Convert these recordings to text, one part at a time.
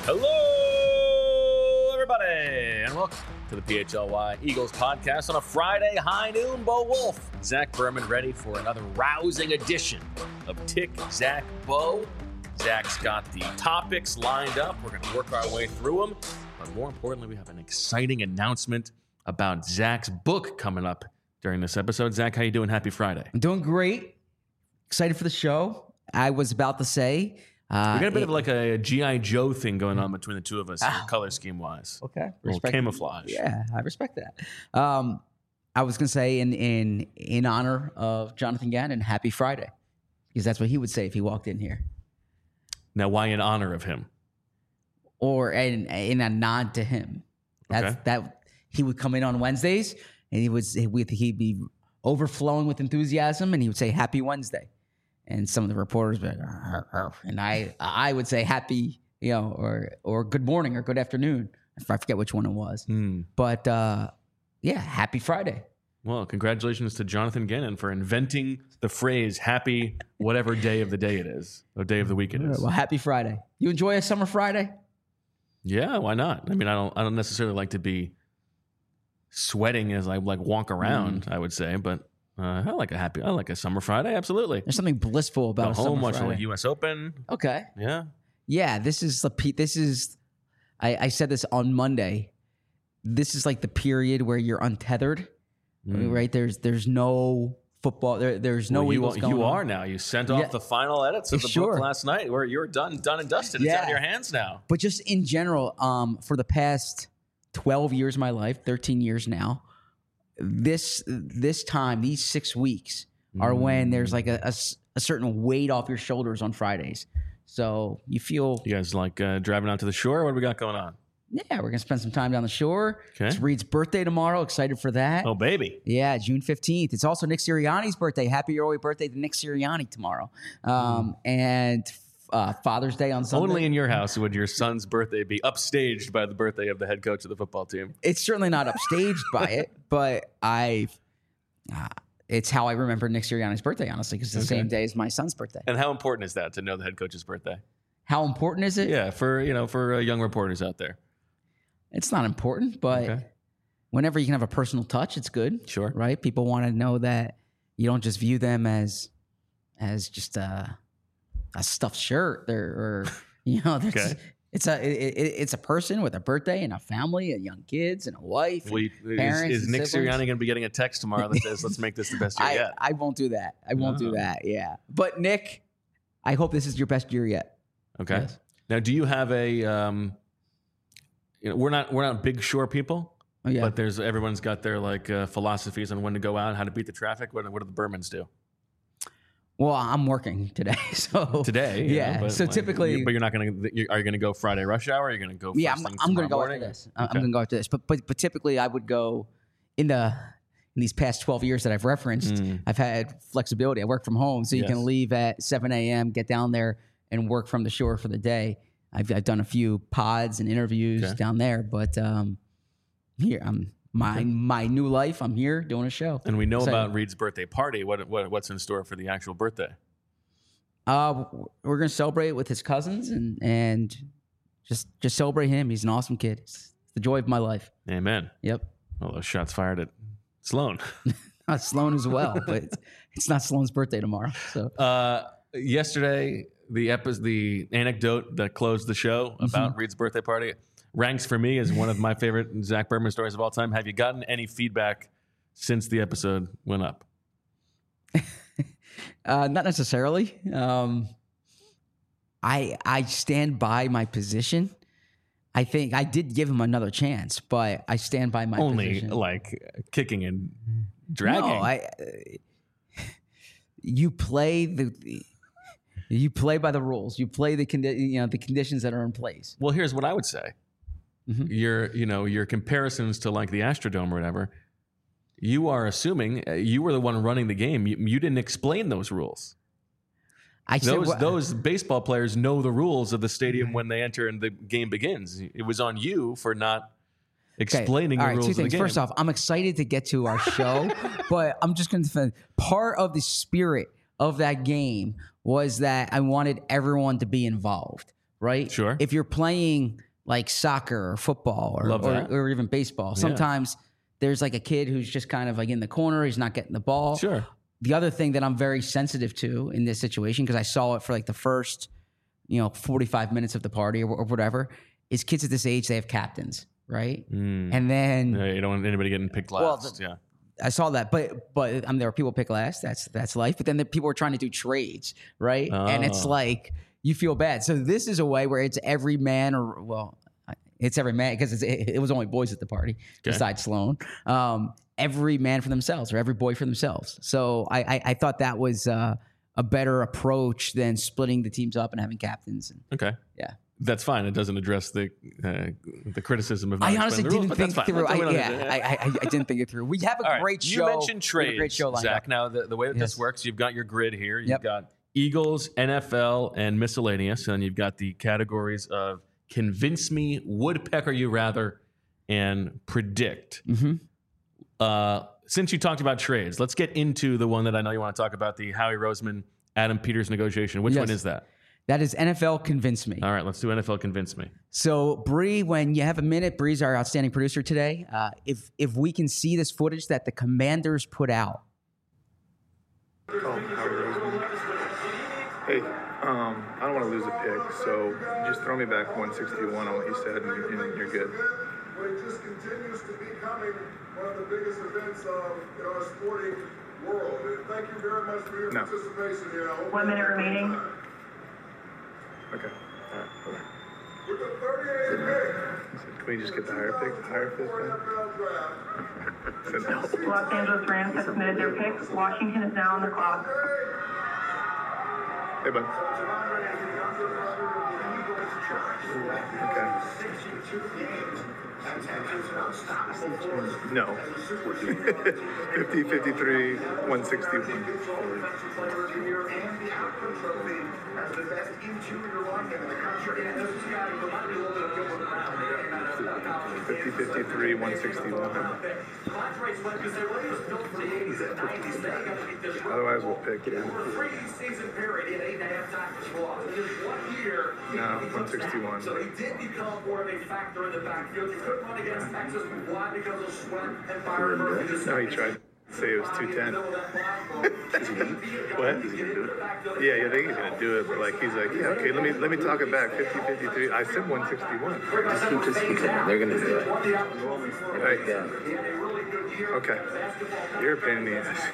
Hello, everybody, and welcome to the PHLY Eagles podcast on a Friday high noon. Bo Wolf, Zach Berman, ready for another rousing edition of Tick, Zach, Bo. Zach's got the topics lined up. We're going to work our way through them. But more importantly, we have an exciting announcement about Zach's book coming up during this episode. Zach, how you doing? Happy Friday. I'm doing great. Excited for the show. I was about to say... we got a bit of like a G.I. Joe thing going on between the two of us, color scheme-wise. Okay. A little camouflage. Yeah, I respect that. I was going to say in honor of Jonathan Gannon, happy Friday. Because that's what he would say if he walked in here. Now, why in honor of him? Or in a nod to him. That he would come in on Wednesdays and he'd be overflowing with enthusiasm and he would say happy Wednesday. And some of the reporters would be like, "Arr, arr," and I would say happy, or good morning or good afternoon. I forget which one it was. But happy Friday. Well, congratulations to Jonathan Gannon for inventing the phrase happy whatever day of the day it is, or day of the week it is. Well, happy Friday. You enjoy a summer Friday? Yeah, why not? I mean, I don't necessarily like to be sweating as I walk around, I would say, but I like a summer Friday, absolutely. There's something blissful about a summer home, watching Friday. the U.S. Open. Okay. Yeah. Yeah, this is I said this on Monday. This is like the period where you're untethered, right? There's no football. There's no Eagles going You on. are now. You sent off the final edits of the book last night where you're done and dusted. It's out of your hands now. But just in general, for the past 12 years of my life, 13 years now, this time, these 6 weeks are when there's like a certain weight off your shoulders on Fridays. So you feel... You guys like driving out to the shore? What do we got going on? Yeah, we're going to spend some time down the shore. Okay. It's Reed's birthday tomorrow. Excited for that. Oh, baby. Yeah, June 15th. It's also Nick Sirianni's birthday. Happy early birthday to Nick Sirianni tomorrow. And Father's Day on Sunday. Only in your house would your son's birthday be upstaged by the birthday of the head coach of the football team. It's certainly not upstaged by it, but it's how I remember Nick Sirianni's birthday, honestly, because it's the same day as my son's birthday. And how important is that to know the head coach's birthday? How important is it? Yeah, for young reporters out there. It's not important, but whenever you can have a personal touch, it's good. Sure. Right? People want to know that you don't just view them as just a stuffed shirt or it's a person with a birthday and a family and young kids and a wife and parents. Is Nick Sirianni going to be getting a text tomorrow that says, let's make this the best year yet? I won't do that. I won't do that, yeah. But Nick, I hope this is your best year yet. Okay. Yes. Now, do you have a we're not big shore people, but everyone's got their philosophies on when to go out, how to beat the traffic. What do the Bermans do? Well, I'm working today, so today, so typically, but you're not going to. Are you going to go Friday rush hour? Are you going to go? I'm going to go after this. I'm going to go after this. But typically, I would go in these past 12 years that I've referenced. I've had flexibility. I work from home, so you can leave at 7 a.m., get down there, and work from the shore for the day. I've done a few pods and interviews down there, but here I'm. My new life, I'm here doing a show. And we know about Reed's birthday party. What's in store for the actual birthday? We're going to celebrate with his cousins and just celebrate him. He's an awesome kid. It's the joy of my life. Amen. Yep. Well, those shots fired at Sloan. Not Sloan as well, but it's not Sloan's birthday tomorrow. So yesterday, the anecdote that closed the show about Reed's birthday party ranks for me as one of my favorite Zach Berman stories of all time. Have you gotten any feedback since the episode went up? Not necessarily. I stand by my position. I think I did give him another chance, but I stand by my position. Only like kicking and dragging. No, you play by the rules. You play the conditions that are in place. Well, here's what I would say. Your comparisons to like the Astrodome or whatever, you are assuming you were the one running the game. You didn't explain those rules. Those baseball players know the rules of the stadium when they enter and the game begins. It was on you for not explaining the rules of the game. First off, I'm excited to get to our show, but I'm just going to defend part of the spirit of that game was that I wanted everyone to be involved. right? Sure. If you're playing like soccer or football or even baseball, sometimes there's like a kid who's just kind of like in the corner. He's not getting the ball. Sure. The other thing that I'm very sensitive to in this situation, because I saw it for like the first, 45 minutes of the party or whatever, is kids at this age, they have captains, right? And then you don't want anybody getting picked last. I saw that, but there are people pick last. That's life. But then the people are trying to do trades, right? And it's like you feel bad. So this is a way where it's every man, it's every man because it was only boys at the party besides Sloan. Every man for themselves or every boy for themselves. So I thought that was a better approach than splitting the teams up and having captains. Okay. Yeah. That's fine. It doesn't address the criticism of. I honestly didn't think through. I didn't think it through. We have a great show. You mentioned trades, great show lined Zach. up. Now the way that this works, you've got your grid here. You've got Eagles, NFL, and miscellaneous, and you've got the categories of convince me, woodpecker you rather, and predict. Since you talked about trades, let's get into the one that I know you want to talk about: the Howie Roseman, Adam Peters negotiation. Which one is that? That is NFL Convince Me. All right, let's do NFL Convince Me. So, Bree, when you have a minute, Bree's our outstanding producer today. If we can see this footage that the Commanders put out. Hey, I don't want to lose a pick, so just throw me back 161 on what you said, and you're good. It just continues to becoming one of the biggest events in our sporting world. And thank you very much for your participation here. 1 minute remaining. Okay. All right. Okay. With the 38th pick. Can we just get the higher pick? The higher fifth then? Los Angeles Rams have submitted their picks. Washington is now on the clock. Hey, bud. Okay. No. 50, 53, 161. The best interior lineman in the country. 50, 53, 161. Otherwise, we'll pick it. No, 161. So he did become more of a factor in the backfield. You couldn't run against Texas. Why? Because of Sweat and Byron Murphy. No, he tried to say it was 210. What? Is he gonna do it? Yeah, I think he's gonna do it, but he's like, yeah, okay, let me talk it back. 50, 53. I said 161. Just keep saying they're gonna do it. Right. Okay. You're a pain in the ass.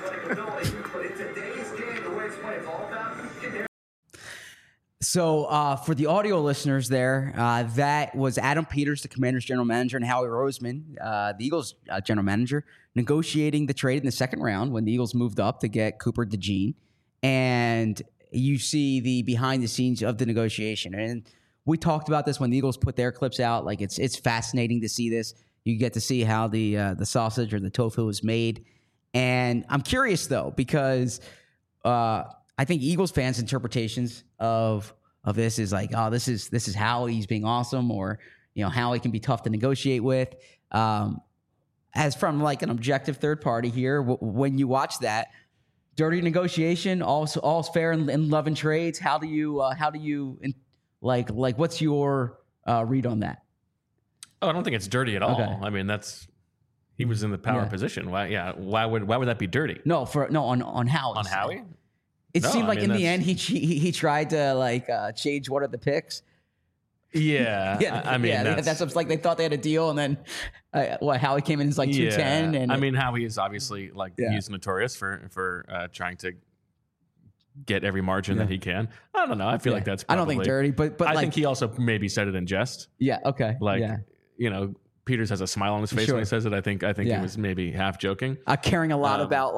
So for the audio listeners there, that was Adam Peters, the Commanders general manager, and Howie Roseman, the Eagles general manager, negotiating the trade in the second round when the Eagles moved up to get Cooper DeJean. And you see the behind the scenes of the negotiation. And we talked about this when the Eagles put their clips out. Like it's fascinating to see this. You get to see how the sausage or the tofu is made. And I'm curious though, because I think Eagles fans' interpretations of this is like, oh, this is Howie's being awesome, or Howie can be tough to negotiate with. As from like an objective third party here, when you watch that dirty negotiation, all's fair in love and trades. How do you like what's your read on that? Oh, I don't think it's dirty at all. Okay. I mean, he was in the power position. Why would that be dirty? No, on Howie. On Howie? It seemed like in the end he tried to change one of the picks. Yeah, that's what's like. They thought they had a deal, and then Howie came in as like 210. And I mean, Howie is obviously he's notorious for trying to get every margin that he can. I don't know. I feel like that's probably, I don't think dirty, but I think he also maybe said it in jest. Yeah. Okay. Peters has a smile on his face when he says it. I think he was maybe half joking. Caring a lot about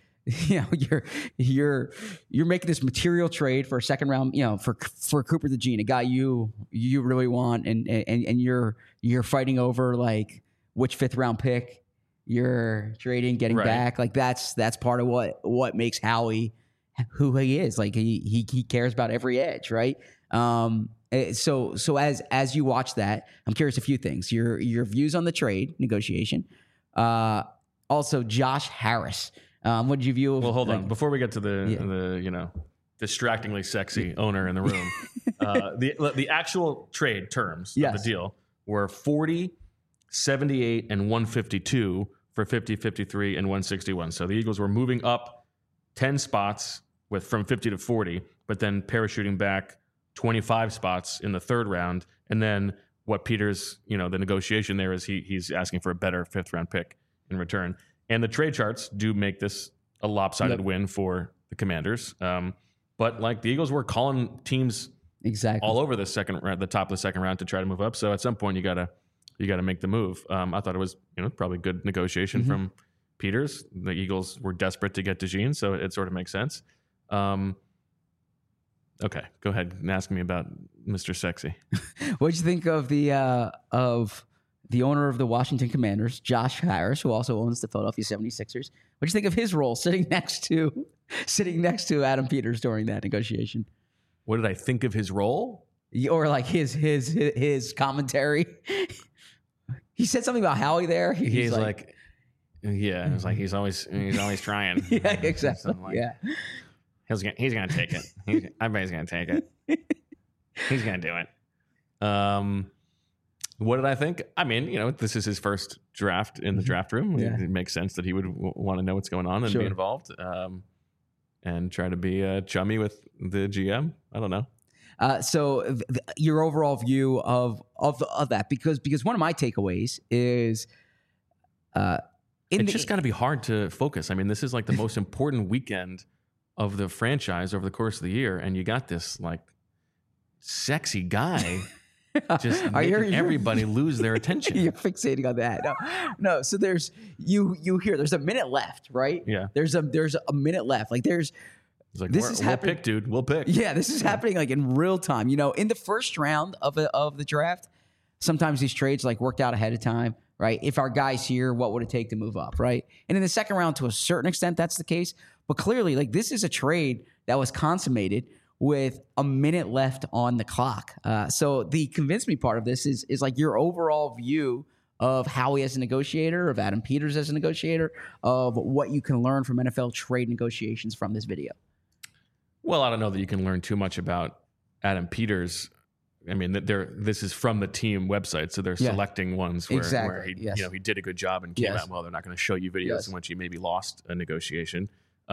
you're making this material trade for a second round, for Cooper DeJean, a guy you really want, and you're fighting over like which fifth round pick you're trading, getting back. Like that's part of what makes Howie who he is. Like he cares about every edge, right? So as you watch that, I'm curious a few things. Your views on the trade negotiation. Also, Josh Harris. What did you view? Well, hold on. Before we get to the distractingly sexy owner in the room. The actual trade terms of the deal were 40, 78, and 152 for 50, 53, and 161. So the Eagles were moving up 10 spots from 50 to 40, but then parachuting back 25 spots in the third round. And then what Peters, the negotiation there is he's asking for a better 5th round pick in return. And the trade charts do make this a lopsided win for the Commanders. But like the Eagles were calling teams all over the top of the second round to try to move up. So at some point you gotta make the move. I thought it was probably good negotiation from Peters. The Eagles were desperate to get DeJean, so it sort of makes sense. Okay, go ahead and ask me about Mr. Sexy. What'd you think of the owner of the Washington Commanders, Josh Harris, who also owns the Philadelphia 76ers? What'd you think of his role sitting next to Adam Peters during that negotiation? What did I think of his role? Or like his commentary? He said something about Howie there. He's like yeah, it's like he's always trying. Yeah, exactly. Yeah. He's gonna take it. Everybody's gonna take it. He's gonna do it. What did I think? I mean, this is his first draft in the draft room. Yeah. It makes sense that he would want to know what's going on and be involved, and try to be chummy with the GM. I don't know. So your overall view of that, because one of my takeaways is, it's just got to be hard to focus. I mean, this is like the most important weekend of the franchise over the course of the year, and you got this like sexy guy just making everybody lose their attention. You're fixating on that. No. So there's you hear there's a minute left, right? Yeah. There's a minute left. Like it's like we'll pick, dude. We'll pick. Yeah, this is happening like in real time. In the first round of the draft, sometimes these trades like worked out ahead of time, right? If our guy's here, what would it take to move up, right? And in the second round, to a certain extent, that's the case. But clearly, like this is a trade that was consummated with a minute left on the clock. So the convince me part of this is like your overall view of Howie as a negotiator, of Adam Peters as a negotiator, of what you can learn from NFL trade negotiations from this video. Well, I don't know that you can learn too much about Adam Peters. I mean, this is from the team website, so they're selecting ones where he, he did a good job and came out well. They're not going to show you videos in which he maybe lost a negotiation.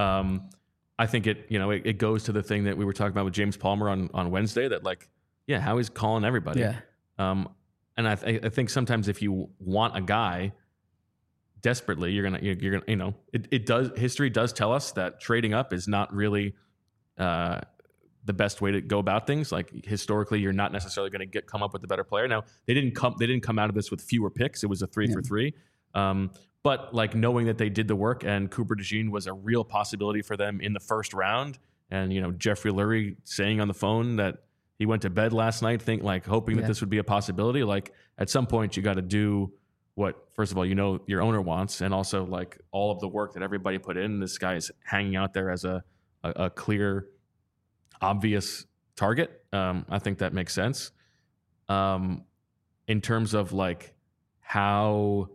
I think it goes to the thing that we were talking about with James Palmer on Wednesday, that Howie's calling everybody. Yeah. And I think sometimes if you want a guy desperately, you're gonna history does tell us that trading up is not really the best way to go about things. Like historically, you're not necessarily going to come up with a better player. Now they didn't come out of this with fewer picks. It was a 3 for 3. But like knowing that they did the work and Cooper DeJean was a real possibility for them in the first round, and Jeffrey Lurie saying on the phone that he went to bed last night hoping that this would be a possibility. Like at some point you got to do what, first of all, your owner wants, and also like all of the work that everybody put in. This guy is hanging out there as a clear, obvious target. I think that makes sense. In terms of like how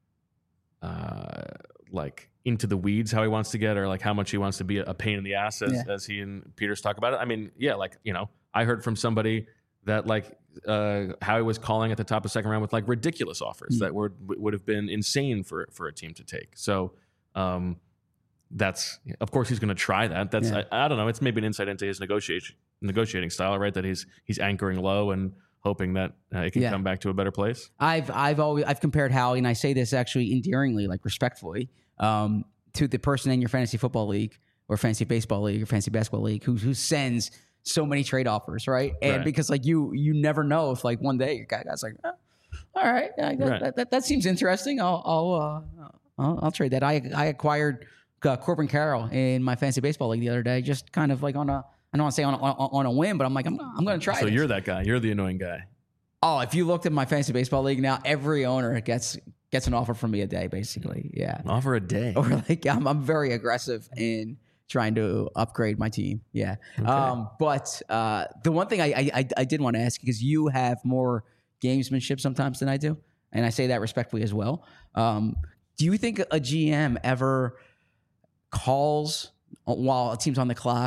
into the weeds how he wants to get, or like how much he wants to be a pain in the ass as he and Peters talk about it. I mean, I heard from somebody that how he was calling at the top of the second round with like ridiculous offers that would have been insane for a team to take. So that's, of course he's going to try that. That's I don't know. It's maybe an insight into his negotiating style, right? That he's anchoring low and hoping that it can come back to a better place. I've compared Howie, and I say this actually endearingly, like respectfully, to the person in your fantasy football league or fantasy baseball league or fantasy basketball league who sends so many trade offers, right? And because like you never know if like one day your guy's like, all right, that seems interesting. I'll trade that. I acquired Corbin Carroll in my fantasy baseball league the other day, just kind of like I don't want to say on a whim, but I'm like, I'm going to try. So you're that guy. You're the annoying guy. Oh, if you looked at my fantasy baseball league now, every owner gets an offer from me a day, basically. Yeah, an offer a day. Or like I'm very aggressive in trying to upgrade my team. Yeah. Okay. But the one thing I did want to ask, because you have more gamesmanship sometimes than I do, and I say that respectfully as well. Do you think a GM ever calls while a team's on the clock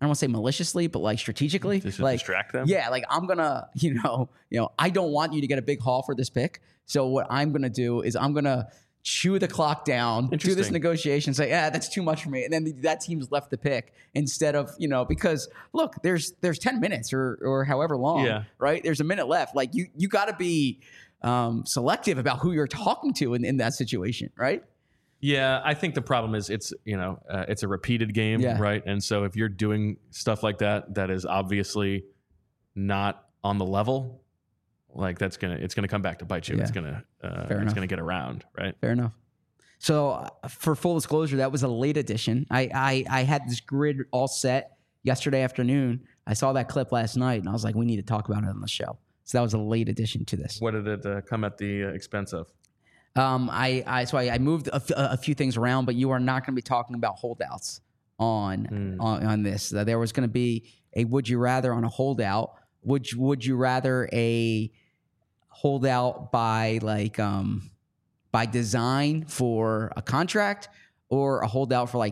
don't want to say maliciously, but like strategically, Just to like distract them? Yeah, like I'm gonna, I don't want you to get a big haul for this pick. So what I'm gonna do is I'm gonna chew the clock down, do this Interesting. negotiation, say, that's too much for me, and then that team's left the pick instead of because look, there's 10 minutes or however long, right? There's a minute left. Like you got to be selective about who you're talking to in that situation, right? Yeah, I think the problem is it's a repeated game, right? And so if you're doing stuff like that is obviously not on the level, like it's gonna come back to bite you. Yeah. It's gonna get around, right? Fair enough. So for full disclosure, that was a late edition. I had this grid all set yesterday afternoon. I saw that clip last night, and I was like, we need to talk about it on the show. So that was a late addition to this. What did it come at the expense of? I moved a few things around, but you are not going to be talking about holdouts on this. There was going to be a would you rather on a holdout. Would you rather a holdout by by design for a contract, or a holdout for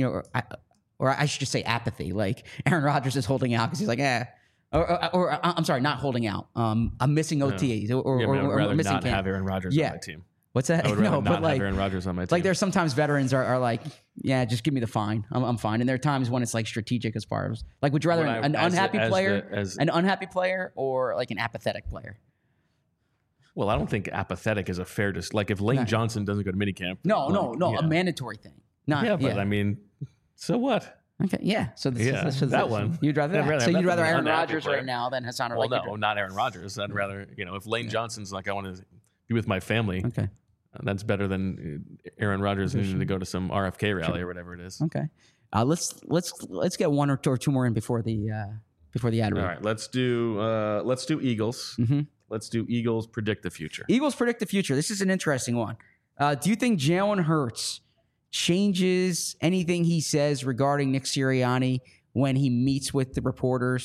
or I should just say apathy? Like Aaron Rodgers is holding out because he's like, or I'm sorry, not holding out. I'm missing OTAs or rather missing not camp. have Aaron Rodgers on my team. What's that? I would rather not but have Aaron Rodgers on my team. Like there's sometimes veterans are like, yeah, just give me the fine. I'm fine. And there are times when it's like strategic as far as like, would you rather an unhappy player or like an apathetic player? Well, I don't think apathetic is a fair like if Lane Johnson doesn't go to minicamp. No, a mandatory thing. I mean, so what? Okay, yeah. So that one. You'd rather that. So you'd rather Aaron Rodgers player right now than Hassan? Well, no, not Aaron Rodgers. I'd rather if Lane Johnson's like I want to be with my family. Okay. That's better than Aaron Rodgers needing to go to some RFK rally or whatever it is. Okay, let's get one or two more in before the ad read. All right, let's do Eagles. Mm-hmm. Let's do Eagles predict the future. Eagles predict the future. This is an interesting one. Do you think Jalen Hurts changes anything he says regarding Nick Sirianni when he meets with the reporters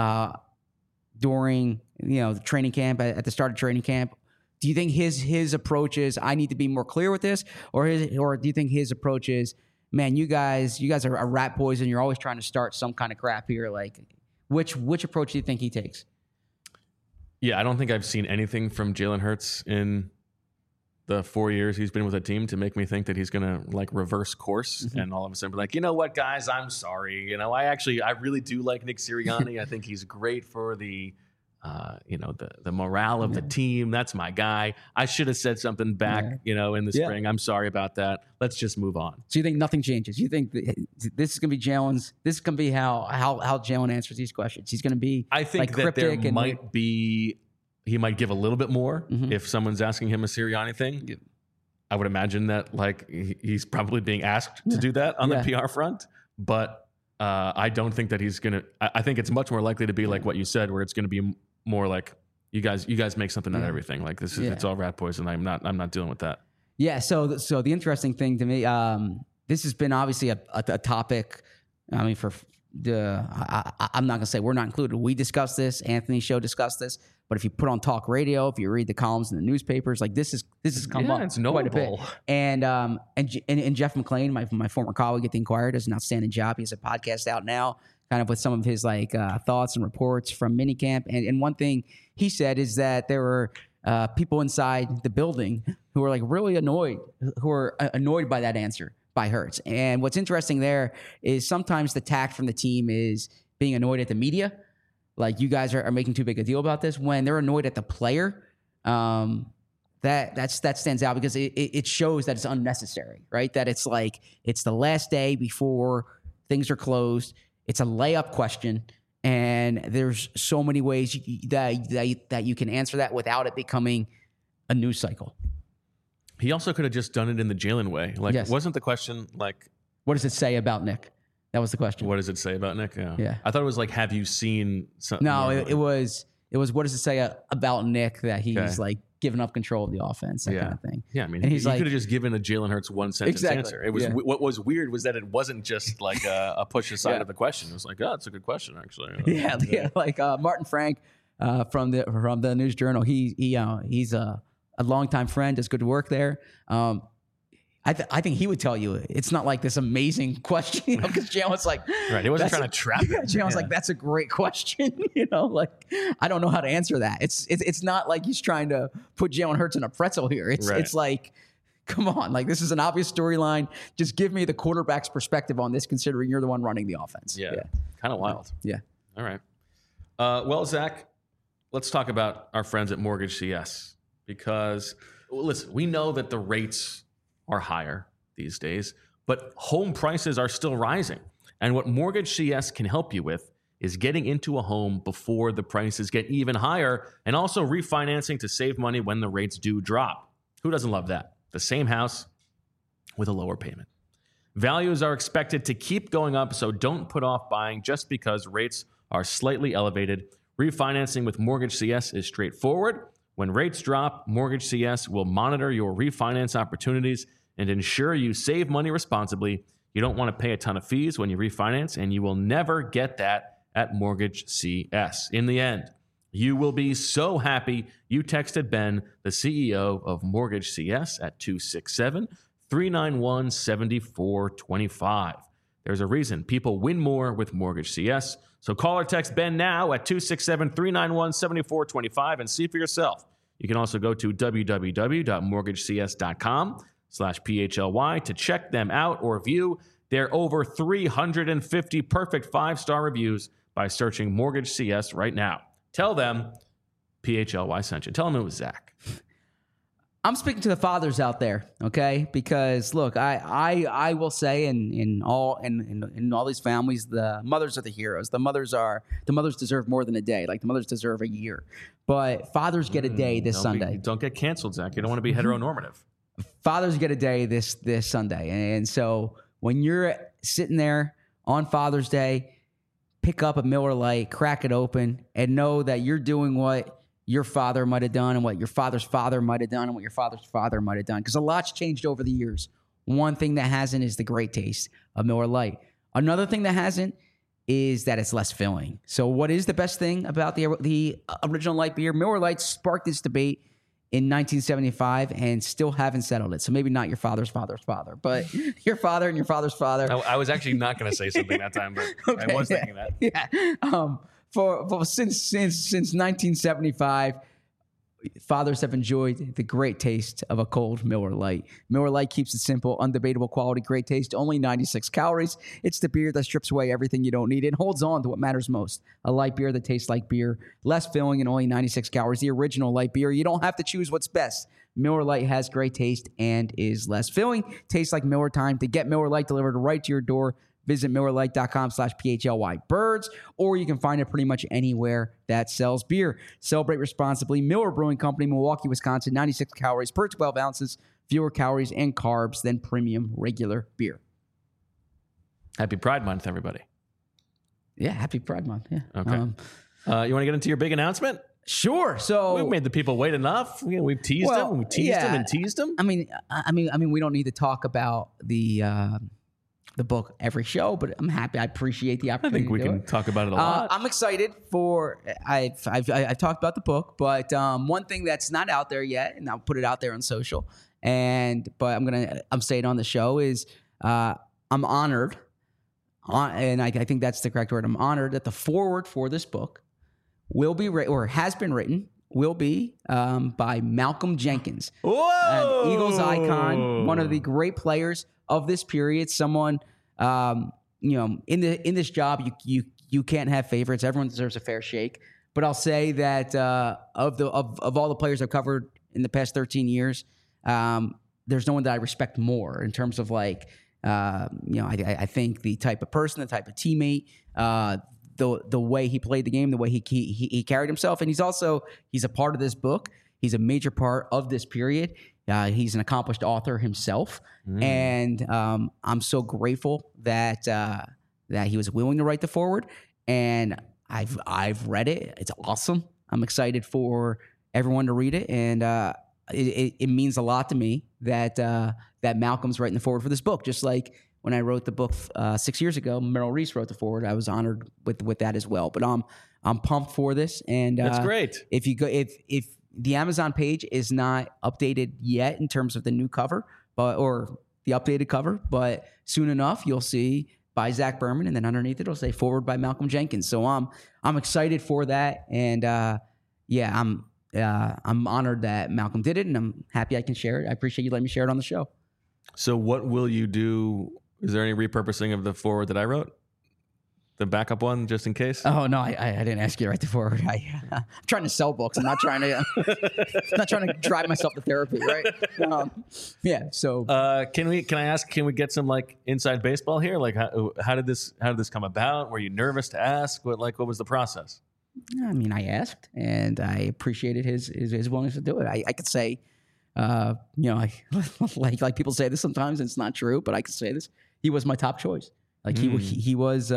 during the training camp at the start of training camp? Do you think his approach is I need to be more clear with this, or do you think his approach is, man, you guys are rat poison, you're always trying to start some kind of crap here? Like, which approach do you think he takes? Yeah, I don't think I've seen anything from Jalen Hurts in the 4 years he's been with a team to make me think that he's going to like reverse course and all of a sudden be like, you know what, guys, I'm sorry. I really do like Nick Sirianni. I think he's great for the morale of the team. That's my guy. I should have said something back, in the spring. I'm sorry about that. Let's just move on. So you think nothing changes? You think this is going to be Jalen's? This is going to be how Jalen answers these questions. He's going to be. I think that there might be. He might give a little bit more if someone's asking him a Sirianni thing. Yeah. I would imagine that he's probably being asked to do that on the PR front, but I don't think that he's going to. I think it's much more likely to be like what you said, where it's going to be more like you guys make something out of everything. Like this is it's all rat poison. I'm not dealing with that. Yeah. So the interesting thing to me, this has been obviously a topic. I mean, I'm not gonna say we're not included. We discussed this. Anthony's show discussed this. But if you put on talk radio, if you read the columns in the newspapers, like this has come up it's quite a bit. notable. And Jeff McLean, my former colleague at the Inquirer, does an outstanding job. He has a podcast out now, kind of with some of his thoughts and reports from minicamp. And one thing he said is that there were people inside the building who were really annoyed by that answer by Hurts. And what's interesting there is sometimes the tact from the team is being annoyed at the media. Like, you guys are making too big a deal about this. When they're annoyed at the player, that stands out because it shows that it's unnecessary, right? That it's it's the last day before things are closed. It's a layup question, and there's so many ways that you can answer that without it becoming a news cycle. He also could have just done it in the Jalen way. Wasn't the question what does it say about Nick? That was the question. What does it say about Nick? Yeah. I thought it was have you seen something? No, it was what does it say about Nick that he's giving up control of the offense, that kind of thing. Yeah, I mean, and he could have just given a Jalen Hurts one sentence answer. It was what was weird was that it wasn't just a push aside of the question. It was it's a good question actually. Martin Frank from the News Journal. He's a longtime friend, does good work there. I think he would tell you it's not like this amazing question, because Jalen was like, right. He wasn't trying to trap it. Jalen was like, that's a great question. Like, I don't know how to answer that. It's not like he's trying to put Jalen Hurts in a pretzel here. It's like, come on, like this is an obvious storyline. Just give me the quarterback's perspective on this, considering you're the one running the offense. Yeah. Kind of wild. Yeah. All right. Well, Zach, let's talk about our friends at Mortgage CS, because listen, we know that the rates are higher these days, but home prices are still rising. And what Mortgage CS can help you with is getting into a home before the prices get even higher, and also refinancing to save money when the rates do drop. Who doesn't love that? The same house with a lower payment. Values are expected to keep going up, so don't put off buying just because rates are slightly elevated. Refinancing with Mortgage CS is straightforward. When rates drop, Mortgage CS will monitor your refinance opportunities and ensure you save money responsibly. You don't want to pay a ton of fees when you refinance, and you will never get that at Mortgage CS. In the end, you will be so happy you texted Ben, the CEO of Mortgage CS, at 267-391-7425. There's a reason people win more with Mortgage CS. So call or text Ben now at 267-391-7425 and see for yourself. You can also go to www.mortgagecs.com/PHLY to check them out or view their over 350 perfect 5-star reviews by searching Mortgage CS right now. Tell them PHLY sent you. Tell them it was Zach. I'm speaking to the fathers out there, okay? Because look, I will say in all these families, the mothers are the heroes. The mothers deserve more than a day. Like the mothers deserve a year. But fathers get a day this Sunday. Don't get canceled, Zach. You don't want to be heteronormative. Fathers get a day this Sunday. And so when you're sitting there on Father's Day, pick up a Miller Lite, crack it open, and know that you're doing what your father might have done and what your father's father might have done and what your father's father might have done. Because a lot's changed over the years. One thing that hasn't is the great taste of Miller Lite. Another thing that hasn't is that it's less filling. So what is the best thing about the original light beer? Miller Lite sparked this debate in 1975 and still haven't settled it. So maybe not your father's father's father, but your father and your father's father. I was actually not going to say something that time, but okay, I was thinking that. Yeah. Since 1975, fathers have enjoyed the great taste of a cold Miller Lite. Miller Lite keeps it simple, undebatable quality, great taste, only 96 calories. It's the beer that strips away everything you don't need and holds on to what matters most. A light beer that tastes like beer, less filling and only 96 calories. The original light beer. You don't have to choose what's best. Miller Lite has great taste and is less filling. Tastes like Miller time. To get Miller Lite delivered right to your door, visit MillerLite.com/PHLY birds, or you can find it pretty much anywhere that sells beer. Celebrate responsibly. Miller Brewing Company, Milwaukee, Wisconsin, 96 calories per 12 ounces, fewer calories and carbs than premium regular beer. Happy Pride Month, everybody. Yeah, happy Pride Month. Yeah. Okay. You want to get into your big announcement? Sure. So we've made the people wait enough. We've teased them. We teased them and teased them. I mean, we don't need to talk about the book every show, but I'm happy. I appreciate the opportunity. I think we can talk about it a lot. I'm excited for. I've talked about the book, but one thing that's not out there yet, and I'll put it out there on social, but I'm saying on the show is I'm honored, and I think that's the correct word. I'm honored that the foreword for this book will be has been written. Will be by Malcolm Jenkins, an Eagles icon, one of the great players of this period. Someone, in this job, you can't have favorites. Everyone deserves a fair shake. But I'll say that of all the players I've covered in the past 13 years, there's no one that I respect more in terms of I think the type of person, the type of teammate, the way he played the game, the way he carried himself. And he's a part of this book. He's a major part of this period. He's an accomplished author himself. And I'm so grateful that he was willing to write the foreword. And I've read it. It's awesome. I'm excited for everyone to read it. And it means a lot to me that Malcolm's writing the foreword for this book. Just like when I wrote the book 6 years ago, Merrill Reese wrote the foreword. I was honored with that as well. But I'm pumped for this. And that's great. If the Amazon page is not updated yet in terms of the new cover, or the updated cover, but soon enough you'll see by Zach Berman, and then underneath it'll say forward by Malcolm Jenkins. So I'm excited for that, and I'm honored that Malcolm did it, and I'm happy I can share it. I appreciate you letting me share it on the show. So what will you do? Is there any repurposing of the forward that I wrote? The backup one, just in case? Oh, no, I didn't ask you to write the forward. I'm trying to sell books. I'm not trying to drive myself to therapy, right? So can I ask, can we get some like inside baseball here? Like how did this come about? Were you nervous to ask? What was the process? I mean, I asked, and I appreciated his willingness to do it. I could say, like people say this sometimes, and it's not true, but I could say this. He was my top choice. Like he was.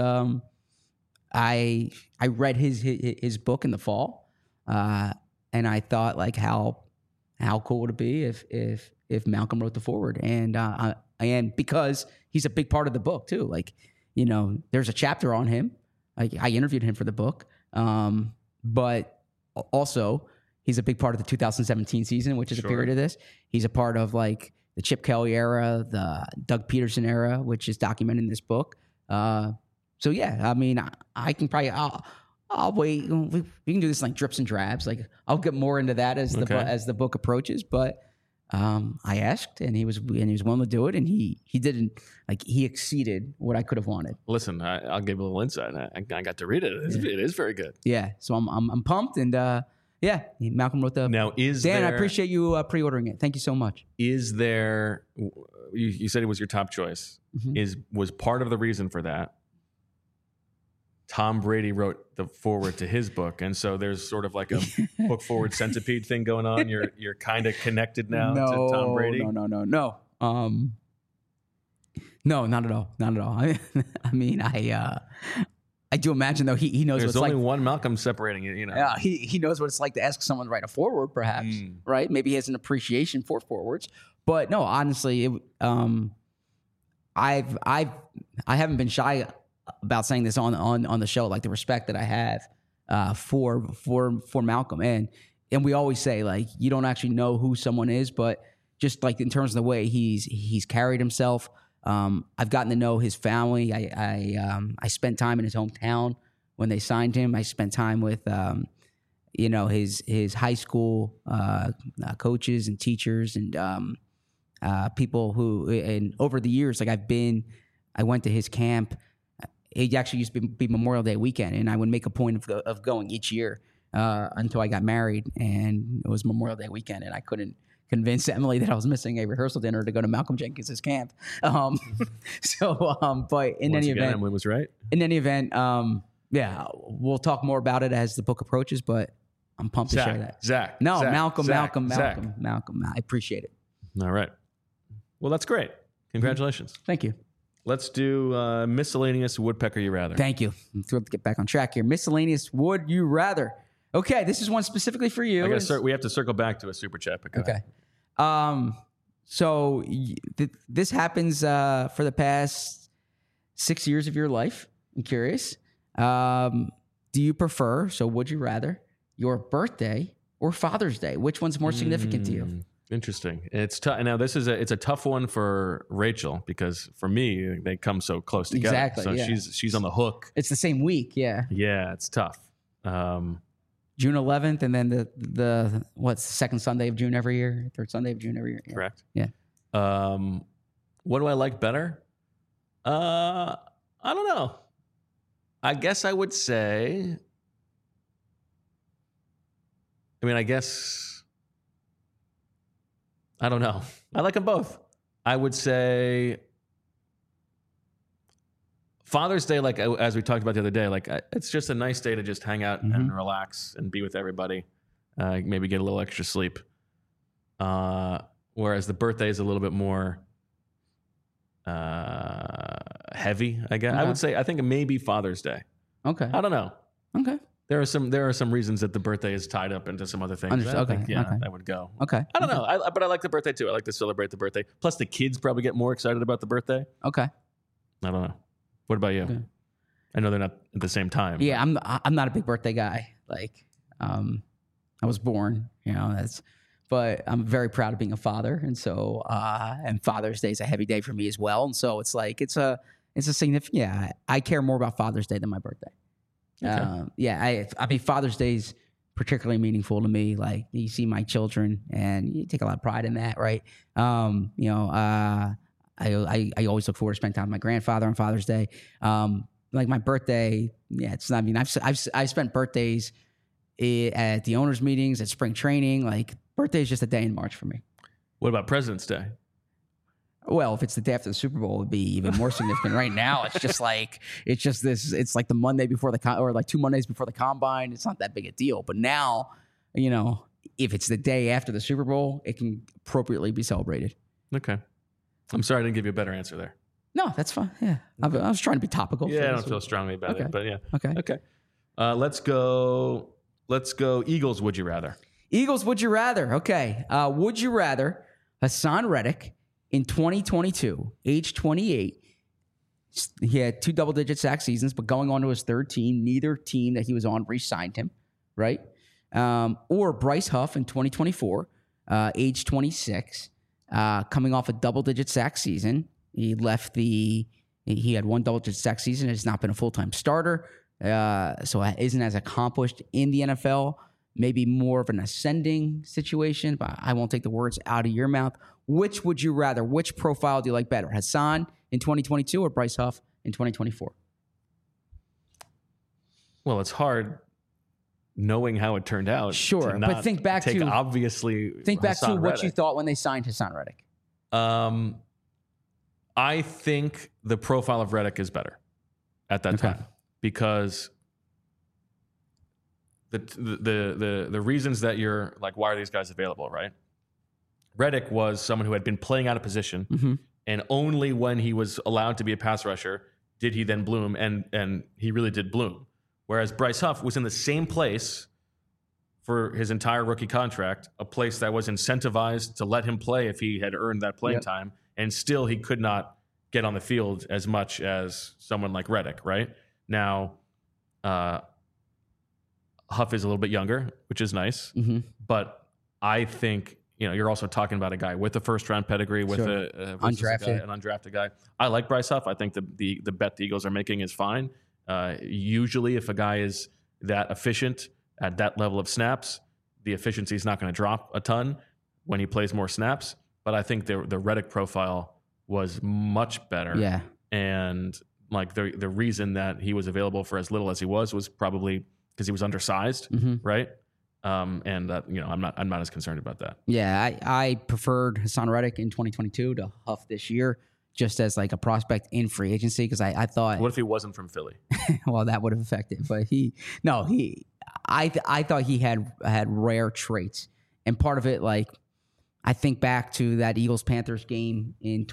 I read his book in the fall, and I thought like how cool would it be if Malcolm wrote the forward, and because he's a big part of the book too. Like, there's a chapter on him. Like I interviewed him for the book, but also he's a big part of the 2017 season, which is a period of this. He's a part of like the Chip Kelly era, the Doug Peterson era, which is documented in this book. So yeah, I mean, I can probably I'll wait. We can do this like drips and drabs. Like I'll get more into that as the book approaches. But I asked, and he was willing to do it, and he didn't he exceeded what I could have wanted. Listen, I'll give a little insight. I got to read it. It is very good. Yeah, so I'm pumped, and Malcolm wrote the. Now Dan, I appreciate you pre-ordering it. Thank you so much. Is there? You said it was your top choice. Mm-hmm. Was part of the reason for that? Tom Brady wrote the forward to his book, and so there's sort of like a book forward centipede thing going on. You're kind of connected now to Tom Brady. No. No, not at all. Not at all. I mean, I do imagine though he knows. There's only one Malcolm separating it. Yeah, he knows what it's like to ask someone to write a forward, perhaps. Right? Maybe he has an appreciation for forwards, but no, honestly, I haven't been shy about saying this on the show, like the respect that I have for Malcolm, and we always say like you don't actually know who someone is, but just like in terms of the way he's carried himself, I've gotten to know his family. I spent time in his hometown when they signed him. I spent time with his high school coaches and teachers and people who, and over the years, like I went to his camp. It actually used to be Memorial Day weekend, and I would make a point of going each year until I got married, and it was Memorial Day weekend, and I couldn't convince Emily that I was missing a rehearsal dinner to go to Malcolm Jenkins' camp. But in any event, Emily was right. In any event, we'll talk more about it as the book approaches, but I'm pumped to share that. Zach. Malcolm. I appreciate it. All right. Well, that's great. Congratulations. Thank you. Let's do miscellaneous woodpecker you rather. Thank you. I'm thrilled to get back on track here. Miscellaneous would you rather. Okay, this is one specifically for you. We have to circle back to a super chat. Okay. So this happens for the past 6 years of your life. I'm curious. Do you prefer, so would you rather, your birthday or Father's Day? Which one's more significant to you? Interesting. It's tough. Now it's a tough one for Rachel because for me they come so close together. Exactly. So yeah. she's on the hook. It's the same week. Yeah. Yeah, it's tough. June 11th, and then the second Sunday of June every year, third Sunday of June every year. Yeah. Correct. Yeah. What do I like better? I don't know. I guess I would say. I don't know. I like them both. I would say Father's Day, like as we talked about the other day, like it's just a nice day to just hang out and relax and be with everybody. Maybe get a little extra sleep. Whereas the birthday is a little bit more heavy, I guess. Okay. I think maybe Father's Day. Okay. I don't know. Okay. There are some reasons that the birthday is tied up into some other things. That would go. Okay. I don't know. But I like the birthday too. I like to celebrate the birthday. Plus, the kids probably get more excited about the birthday. Okay. I don't know. What about you? Okay. I know they're not at the same time. Yeah, I'm not a big birthday guy. Like, I was born. That's. but I'm very proud of being a father. And so, and Father's Day is a heavy day for me as well. And so it's like, it's a significant, I care more about Father's Day than my birthday. Okay. I mean, Father's Day is particularly meaningful to me. Like, you see my children and you take a lot of pride in that. Right. I always look forward to spending time with my grandfather on Father's Day. Like my birthday, it's not, I mean, I've spent birthdays at the owners' meetings, at spring training. Like, birthday is just a day in March for me. What about President's Day? Well, if it's the day after the Super Bowl, it would be even more significant. Right now, it's like the Monday before or like 2 Mondays before the combine. It's not that big a deal. But now, if it's the day after the Super Bowl, it can appropriately be celebrated. Okay. I'm sorry I didn't give you a better answer there. No, that's fine. Yeah. I was trying to be topical. Yeah, I don't feel strongly about it, but yeah. Okay. Let's go Eagles, would you rather? Eagles, would you rather? Okay. Would you rather Hassan Reddick in 2022, age 28, he had 2 double-digit sack seasons, but going on to his third team, neither team that he was on re-signed him, right? Or Bryce Huff in 2024, age 26, coming off a double-digit sack season. He had 1 double-digit sack season, has not been a full-time starter, so isn't as accomplished in the NFL. Maybe more of an ascending situation, but I won't take the words out of your mouth. Which would you rather? Which profile do you like better? Hassan in 2022 or Bryce Huff in 2024? Well, it's hard knowing how it turned out. Sure, but think back to what Reddick. You thought when they signed Hassan Reddick. I think the profile of Reddick is better at that time because the reasons that you're like, why are these guys available, right? Reddick was someone who had been playing out of position, and only when he was allowed to be a pass rusher did he then bloom, and he really did bloom. Whereas Bryce Huff was in the same place for his entire rookie contract, a place that was incentivized to let him play if he had earned that playing time, and still he could not get on the field as much as someone like Reddick, right? Now, Huff is a little bit younger, which is nice, but I think you're also talking about a guy with a first-round pedigree, with an undrafted guy. I like Bryce Huff. I think the bet the Eagles are making is fine. Usually, if a guy is that efficient at that level of snaps, the efficiency is not going to drop a ton when he plays more snaps. But I think the Reddick profile was much better. Yeah, and like the reason that he was available for as little as he was probably because he was undersized, right? I'm not as concerned about that. Yeah, I preferred Hassan Reddick in 2022 to Huff this year, just as like a prospect in free agency, because I thought, what if he wasn't from Philly? Well, that would have affected. But I thought he had rare traits, and part of it, like I think back to that Eagles-Panthers game in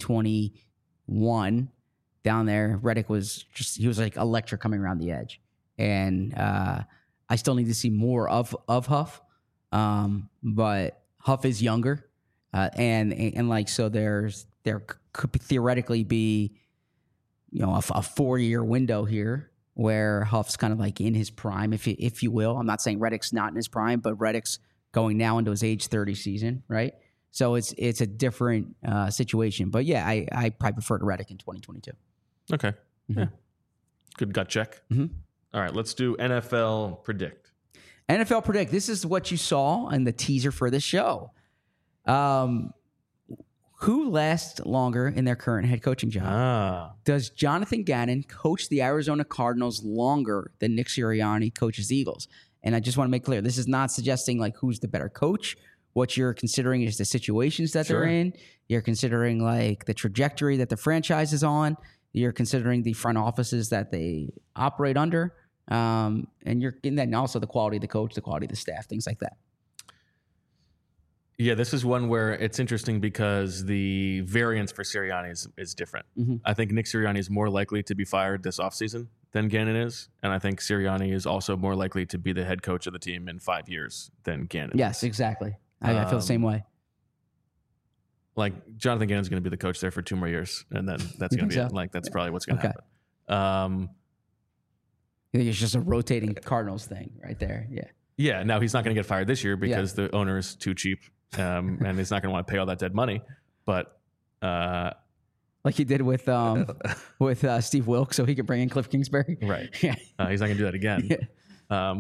2021 down there. Reddick was like electric coming around the edge, and I still need to see more of Huff, but Huff is younger, and like so there could theoretically be a 4-year window here where Huff's kind of like in his prime, if you will. I'm not saying Reddick's not in his prime, but Reddick's going now into his age 30 season, right? So it's a different situation. But yeah, I probably prefer to Reddick in 2022. Okay, yeah, good gut check. All right, let's do NFL Predict. NFL Predict. This is what you saw in the teaser for this show. Who lasts longer in their current head coaching job? Does Jonathan Gannon coach the Arizona Cardinals longer than Nick Sirianni coaches the Eagles? And I just want to make clear, this is not suggesting like who's the better coach. What you're considering is the situations that they're in. You're considering like the trajectory that the franchise is on. You're considering the front offices that they operate under. And you're in that, and also the quality of the coach, the quality of the staff, things like that. Yeah, this is one where it's interesting because the variance for Sirianni is different. I think Nick Sirianni is more likely to be fired this offseason than Gannon is. And I think Sirianni is also more likely to be the head coach of the team in 5 years than Gannon. Yes, exactly. I feel the same way. Like Jonathan Gannon's going to be the coach there for 2 more years, and then that's going to be it. Like that's probably what's going to happen. I think it's just a rotating Cardinals thing right there. Yeah. Yeah, now he's not going to get fired this year because the owner is too cheap, and he's not going to want to pay all that dead money. But like he did with Steve Wilkes, so he could bring in Cliff Kingsbury. Right. Yeah. He's not going to do that again. Yeah.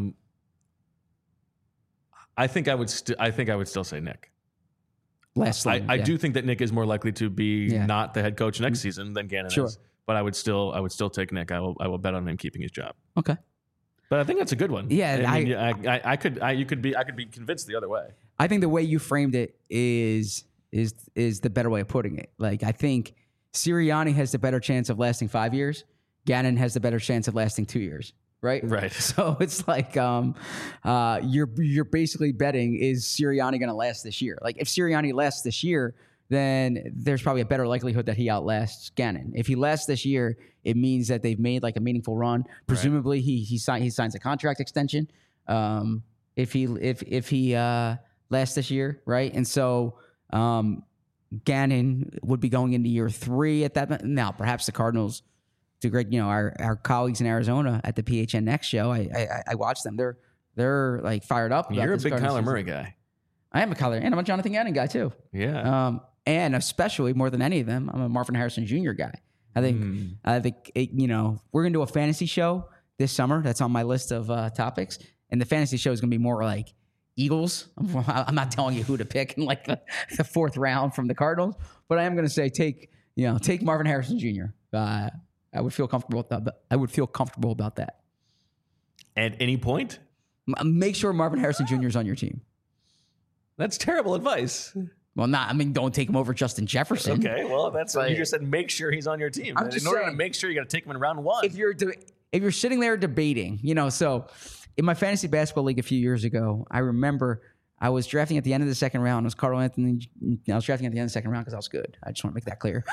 I think I would still say Nick. I do think that Nick is more likely to be not the head coach next season than Gannon is. But I would still take Nick. I will bet on him keeping his job. Okay. But I think that's a good one. Yeah, I could be convinced the other way. I think the way you framed it is the better way of putting it. Like, I think Sirianni has the better chance of lasting 5 years. Gannon has the better chance of lasting 2 years. Right. Right. So it's like you're basically betting, is Sirianni going to last this year? Like, if Sirianni lasts this year, then there's probably a better likelihood that he outlasts Gannon. If he lasts this year, it means that they've made like a meaningful run. Presumably, he signs a contract extension. If he lasts this year, right? And so Gannon would be going into year 3 at that. Now, perhaps the Cardinals, to Greg, our colleagues in Arizona at the PHN Next show, I watch them. They're like fired up. You're a big Kyler Murray guy. I am a Kyler, and I'm a Jonathan Gannon guy too. Yeah. And especially more than any of them, I'm a Marvin Harrison Jr. guy. I think we're gonna do a fantasy show this summer. That's on my list of topics, and the fantasy show is gonna be more like Eagles. I'm not telling you who to pick in like the 4th round from the Cardinals, but I am gonna say take Marvin Harrison Jr. I would feel comfortable with that. I would feel comfortable about that. At any point, make sure Marvin Harrison Jr. is on your team. That's terrible advice. Well, don't take him over Justin Jefferson. Okay, well, that's what you just said. Make sure he's on your team. In order to make sure, you got to take him in round 1. If you're sitting there debating, so in my fantasy basketball league a few years ago, I remember I was drafting at the end of the 2nd round. It was Carl Anthony. I was drafting at the end of the 2nd round because I was good. I just want to make that clear.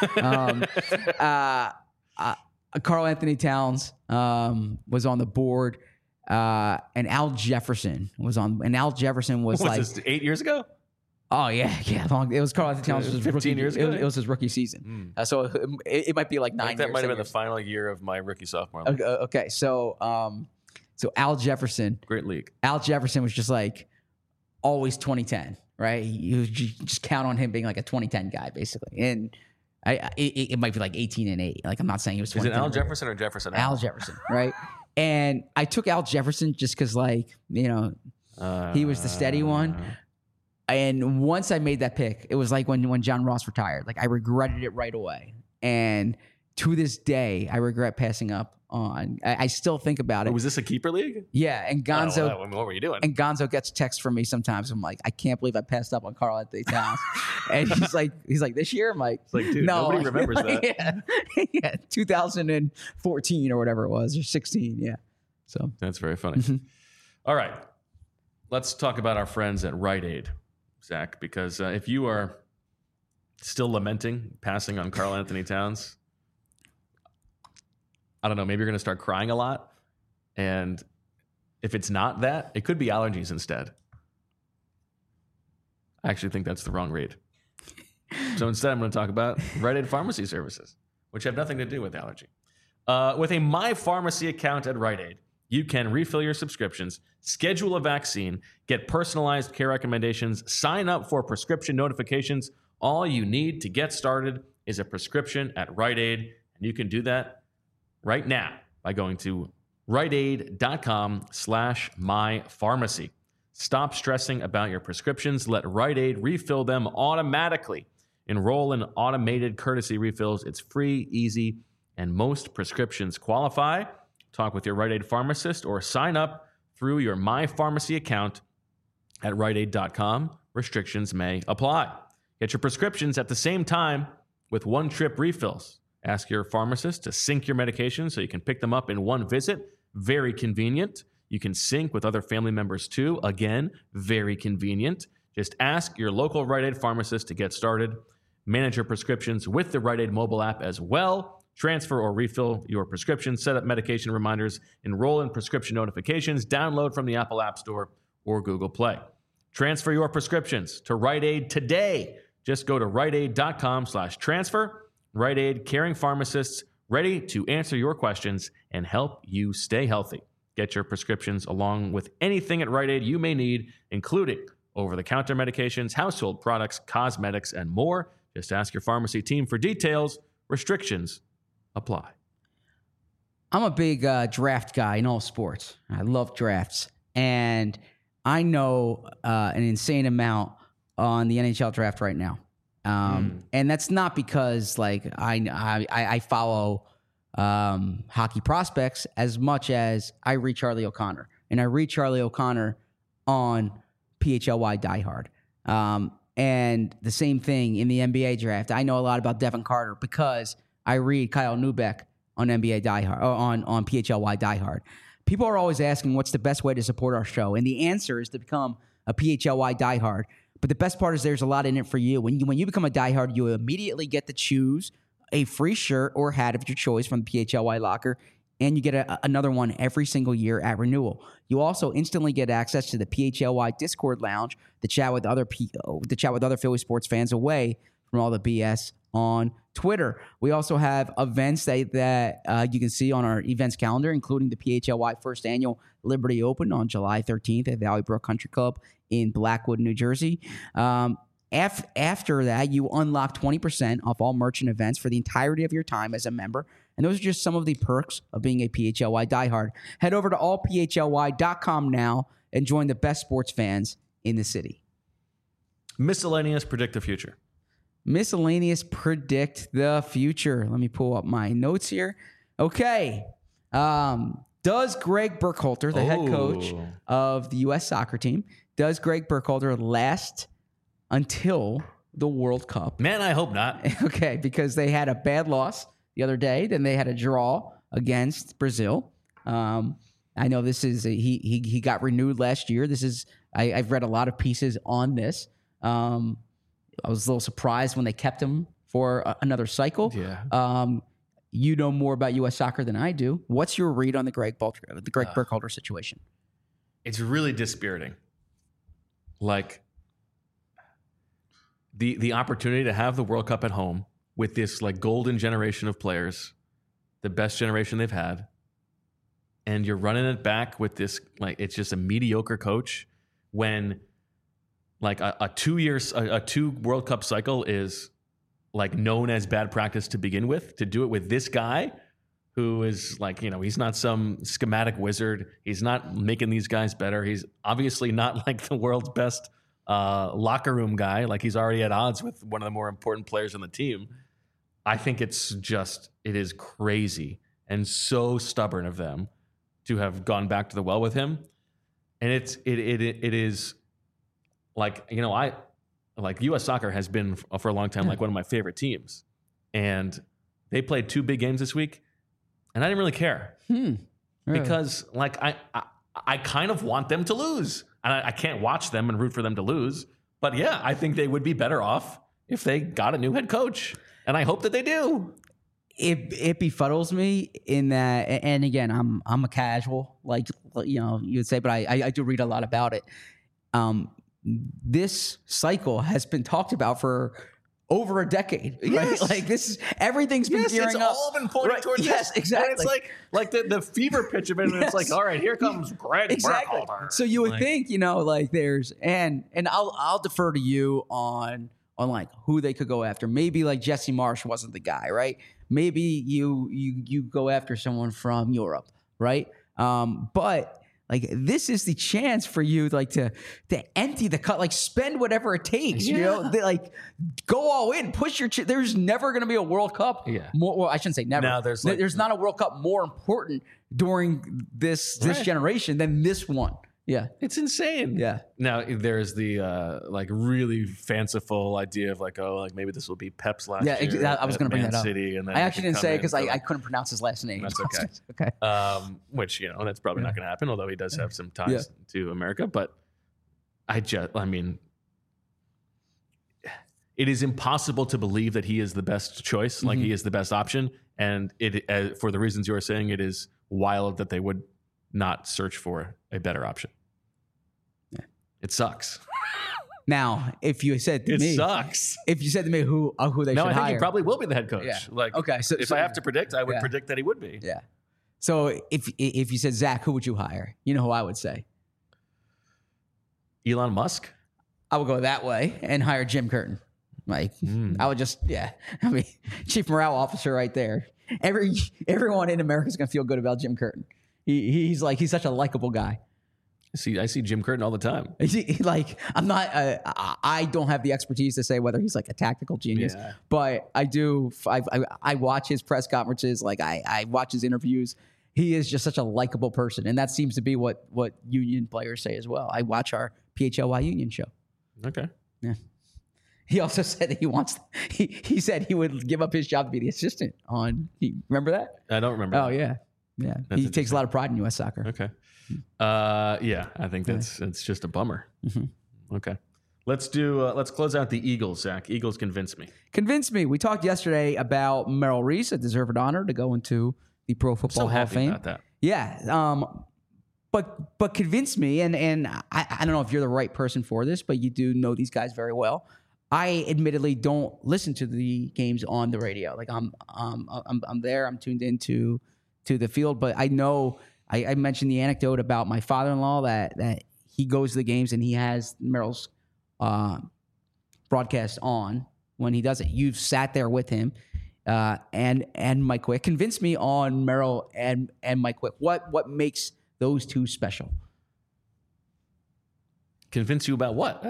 Carl Anthony Towns was on the board, and Al Jefferson was on. And Al Jefferson was like this, 8 years ago. Oh yeah. Long. It was Carl Anthony Towns. 15 years ago. It was his rookie season. So it might be like 9 years. That might have been the final year of my rookie sophomore league. Okay. So Al Jefferson, great league. Al Jefferson was just like always 2010, right? You just count on him being like a 2010 guy, basically, and. It might be like 18-8. Like, I'm not saying it was 20. Is it Al Jefferson or Jefferson? Al Jefferson, right? And I took Al Jefferson just because, he was the steady one. And once I made that pick, it was like when John Ross retired. Like, I regretted it right away. And to this day, I regret passing up on. I still think about it. Was this a keeper league? Yeah, and Gonzo. What were you doing? And Gonzo gets texts from me sometimes. I'm like, I can't believe I passed up on Carl Anthony Towns. And he's like, this year? I'm like, dude, no, nobody remembers that. Yeah, 2014 or whatever it was, or 16. Yeah. So that's very funny. All right, let's talk about our friends at Rite Aid, Zach, because if you are still lamenting passing on Carl Anthony Towns, I don't know, maybe you're going to start crying a lot. And if it's not that, it could be allergies instead. I actually think that's the wrong read. So instead, I'm going to talk about Rite Aid Pharmacy Services, which have nothing to do with allergy. With a My Pharmacy account at Rite Aid, you can refill your subscriptions, schedule a vaccine, get personalized care recommendations, sign up for prescription notifications. All you need to get started is a prescription at Rite Aid, and you can do that right now by going to riteaid.com/mypharmacy. Stop stressing about your prescriptions. Let Rite Aid refill them automatically. Enroll in automated courtesy refills. It's free, easy, and most prescriptions qualify. Talk with your Rite Aid pharmacist or sign up through your My Pharmacy account at riteaid.com. Restrictions may apply. Get your prescriptions at the same time with one-trip refills. Ask your pharmacist to sync your medications so you can pick them up in one visit. Very convenient. You can sync with other family members too. Again, very convenient. Just ask your local Rite Aid pharmacist to get started. Manage your prescriptions with the Rite Aid mobile app as well. Transfer or refill your prescriptions, set up medication reminders, enroll in prescription notifications, download from the Apple App Store or Google Play. Transfer your prescriptions to Rite Aid today. Just go to riteaid.com/transfer. Rite Aid, caring pharmacists, ready to answer your questions and help you stay healthy. Get your prescriptions along with anything at Rite Aid you may need, including over-the-counter medications, household products, cosmetics, and more. Just ask your pharmacy team for details. Restrictions apply. I'm a big draft guy in all sports. I love drafts. And I know an insane amount on the NHL draft right now. And that's not because like I follow hockey prospects as much as I read Charlie O'Connor. And I read Charlie O'Connor on PHLY Diehard. And the same thing in the NBA draft. I know a lot about Devin Carter because I read Kyle Neubeck on NBA Diehard, or on PHLY Diehard. People are always asking what's the best way to support our show. And the answer is to become a PHLY Diehard. But the best part is there's a lot in it for you. When you become a diehard, you immediately get to choose a free shirt or hat of your choice from the PHLY locker, and you get another one every single year at renewal. You also instantly get access to the PHLY Discord lounge to chat with other Philly sports fans away from all the BS on Twitter. We also have events that you can see on our events calendar, including the PHLY First Annual Liberty Open on July 13th at Valley Brook Country Club in Blackwood, New Jersey. After that, you unlock 20% off all merchant events for the entirety of your time as a member. And those are just some of the perks of being a PHLY diehard. Head over to allphly.com now and join the best sports fans in the city. Miscellaneous predict the future. Miscellaneous predict the future. Let me pull up my notes here. Okay. Does Greg Burkhalter, the head coach of the U.S. soccer team, does Greg Burkhalter last until the World Cup? Man, I hope not. Okay, because they had a bad loss the other day. Then they had a draw against Brazil. I know this is he got renewed last year. This is I've read a lot of pieces on this. I was a little surprised when they kept him for another cycle. Yeah. You know more about U.S. soccer than I do. What's your read on the Greg Burkhalter situation? It's really dispiriting. Like the opportunity to have the World Cup at home with this like golden generation of players, the best generation they've had, and you're running it back with this like it's just a mediocre coach when like a 2 World Cup cycle is like known as bad practice to begin with. To do it with this guy who is like, you know, he's not some schematic wizard. He's not making these guys better. He's obviously not like the world's best locker room guy. Like he's already at odds with one of the more important players on the team. I think it is crazy and so stubborn of them to have gone back to the well with him. And it is like, you know, like U.S. soccer has been for a long time like one of my favorite teams. And they played 2 big games this week, and I didn't really care. Really? Because like I kind of want them to lose. And I can't watch them and root for them to lose. But yeah, I think they would be better off if they got a new head coach. And I hope that they do. It befuddles me in that, and again, I'm a casual, like, you know, you would say, but I do read a lot about it. This cycle has been talked about for over a decade. Yes. Right? Like this, everything's been gearing up. It's all been pointing towards yes, this. exactly. And it's like the fever pitch of it. And it's like, all right, here comes Greg exactly. Burkhalter. So you would think, you know, like there's and I'll defer to you on like who they could go after. Maybe like Jesse Marsh wasn't the guy, right? Maybe you go after someone from Europe, right? But like this is the chance for you like to empty the cut, like spend whatever it takes, you know, like go all in, push your. There's never going to be a World Cup. Yeah. Well, I shouldn't say never. No, there's not a World Cup more important during this generation than this one. Yeah. It's insane. Yeah. Now there's the like really fanciful idea of like, oh, like maybe this will be Pep's last year. Yeah, I was going to bring that up. City, and then I actually didn't say it because I couldn't pronounce his last name. That's okay. Okay. Which, you know, that's probably not going to happen, although he does have some ties to America. But I mean, it is impossible to believe that he is the best choice, like he is the best option. And it, for the reasons you are saying, it is wild that they would not search for a better option. It sucks. Now, if you said to me, it sucks. If you said to me who they should hire, I think he probably will be the head coach. Yeah. Like, okay. So if I have to predict, I would predict that he would be. Yeah. So if you said Zach, who would you hire? You know who I would say. Elon Musk? I would go that way and hire Jim Curtin. Like I would just, chief morale officer right there. Everyone in America is going to feel good about Jim Curtin. He's such a likable guy. I see Jim Curtin all the time. I'm not. I don't have the expertise to say whether he's like a tactical genius, but I do. I watch his press conferences. Like I watch his interviews. He is just such a likable person, and that seems to be what union players say as well. I watch our PHLY union show. Okay. Yeah. He also said that he wants. He said he would give up his job to be the assistant on. Remember that? I don't remember. Oh yeah. He takes a lot of pride in U.S. soccer. Okay. I think it's just a bummer. Mm-hmm. Okay. Let's close out the Eagles, Zach. Eagles convince me. Convince me. We talked yesterday about Merrill Reese, a deserved honor to go into the Pro Football Hall of Fame. About that. Yeah. But convince me, and I don't know if you're the right person for this, but you do know these guys very well. I admittedly don't listen to the games on the radio. Like I'm there. I'm tuned into the field, but I know I mentioned the anecdote about my father-in-law that he goes to the games and he has Merrill's broadcast on when he does it. You've sat there with him and Mike Quick. Convince me on Merrill and Mike Quick. What makes those two special? Convince you about what?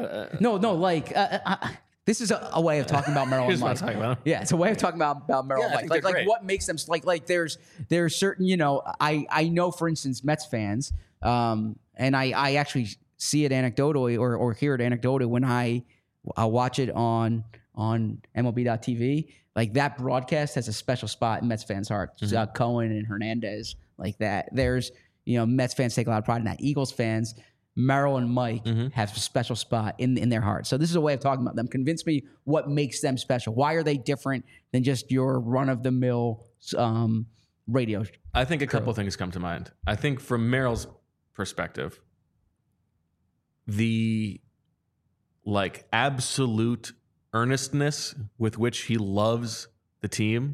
This is a way of talking about Merrill and Mike. Yeah, it's a way of talking about Merrill and Mike. Like what makes them like there's certain, I know, for instance, Mets fans, and I actually see it anecdotally or hear it anecdotally when I watch it on MLB.TV. Like that broadcast has a special spot in Mets fans' hearts. Mm-hmm. Cohen and Hernandez, like that. There's, Mets fans take a lot of pride in that. Eagles fans, Merrill and Mike have a special spot in their hearts. So this is a way of talking about them. Convince me what makes them special. Why are they different than just your run-of-the-mill radio? I think a couple of things come to mind. I think from Merrill's perspective, the absolute earnestness with which he loves the team,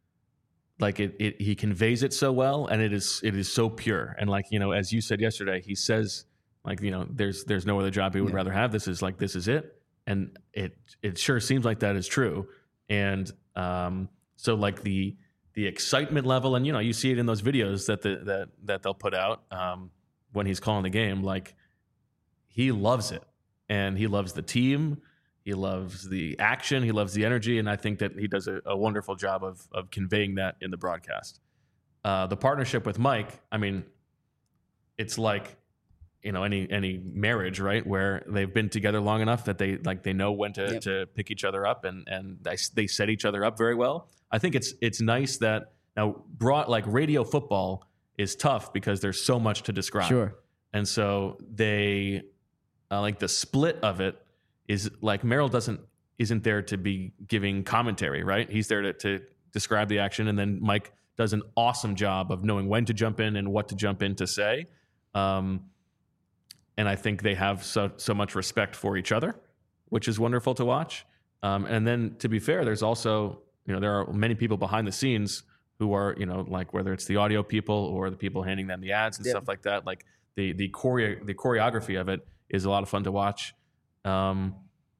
he conveys it so well, and it is so pure. And as you said yesterday, he says, there's no other job he would rather have. This is it. And it sure seems like that is true. And so the excitement level, and you see it in those videos that they'll put out when he's calling the game, he loves it. And he loves the team. He loves the action. He loves the energy. And I think that he does a wonderful job of conveying that in the broadcast. The partnership with Mike, I mean, it's like, any marriage, right? Where they've been together long enough that they know when to pick each other up and they set each other up very well. I think it's nice that now radio football is tough because there's so much to describe. Sure. And so they the split of it is Merrill isn't there to be giving commentary, right? He's there to describe the action, and then Mike does an awesome job of knowing when to jump in and what to jump in to say. And I think they have so much respect for each other, which is wonderful to watch. And then, to be fair, there's also, there are many people behind the scenes who are, whether it's the audio people or the people handing them the ads and stuff like that. The choreography of it is a lot of fun to watch. I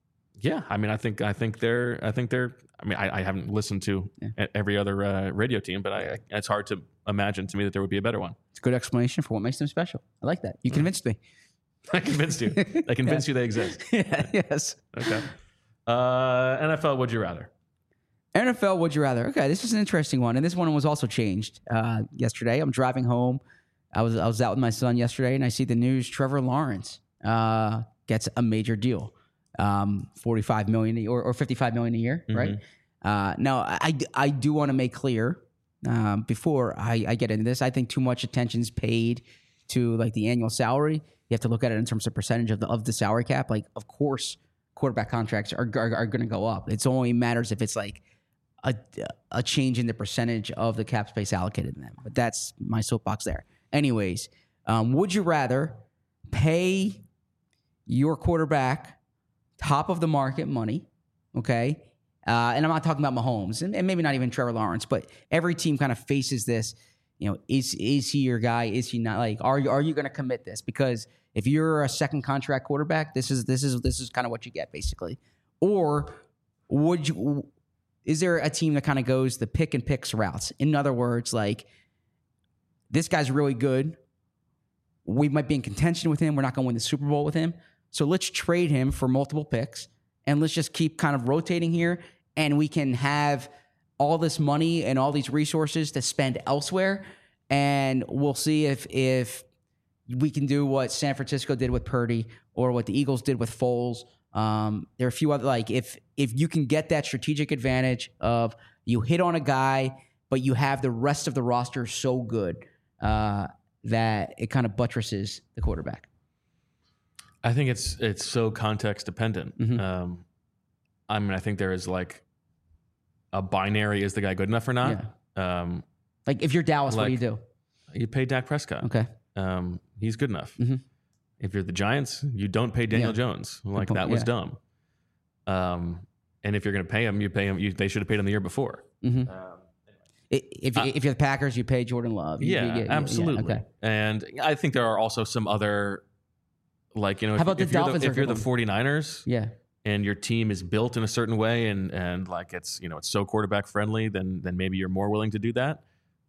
haven't listened to every other radio team, but it's hard to imagine to me that there would be a better one. It's a good explanation for what makes them special. I like that. You convinced me. I convinced you. I convinced you they exist. Yes. Okay. NFL, would you rather? NFL, would you rather? Okay, this is an interesting one, and this one was also changed yesterday. I'm driving home. I was out with my son yesterday, and I see the news. Trevor Lawrence gets a major deal, $45 million or $55 million a year, right? Now, I do want to make clear before I get into this, I think too much attention's paid to the annual salary. You have to look at it in terms of percentage of the salary cap. Of course, quarterback contracts are going to go up. It only matters if it's a change in the percentage of the cap space allocated to them. But that's my soapbox there. Anyways, would you rather pay your quarterback top of the market money, okay? And I'm not talking about Mahomes and maybe not even Trevor Lawrence, but every team kind of faces this. is he your guy? Is he not? Like, are you going to commit this? Because if you're a second contract quarterback, this is kind of what you get basically. Or is there a team that kind of goes the pick and picks routes? In other words, like, this guy's really good. We might be in contention with him. We're not going to win the Super Bowl with him. So let's trade him for multiple picks and let's just keep kind of rotating here. And we can have all this money and all these resources to spend elsewhere. And we'll see if we can do what San Francisco did with Purdy or what the Eagles did with Foles. There are a few other, like, if you can get that strategic advantage of you hit on a guy, but you have the rest of the roster so good that it kind of buttresses the quarterback. I think it's so context dependent. Mm-hmm. I mean, I think there is like a binary: is the guy good enough or not? Yeah. Like, if you're Dallas, what do you do? You pay Dak Prescott. Okay. He's good enough. Mm-hmm. If you're the Giants, you don't pay Daniel Jones. Like, that was dumb. And if you're going to pay him, you pay him. They should have paid him the year before. Mm-hmm. If you're the Packers, you pay Jordan Love. Absolutely. Okay. And I think there are also some other, like, how about if the Dolphins? If you're the 49ers, yeah, and your team is built in a certain way, and like it's so quarterback friendly, then maybe you're more willing to do that.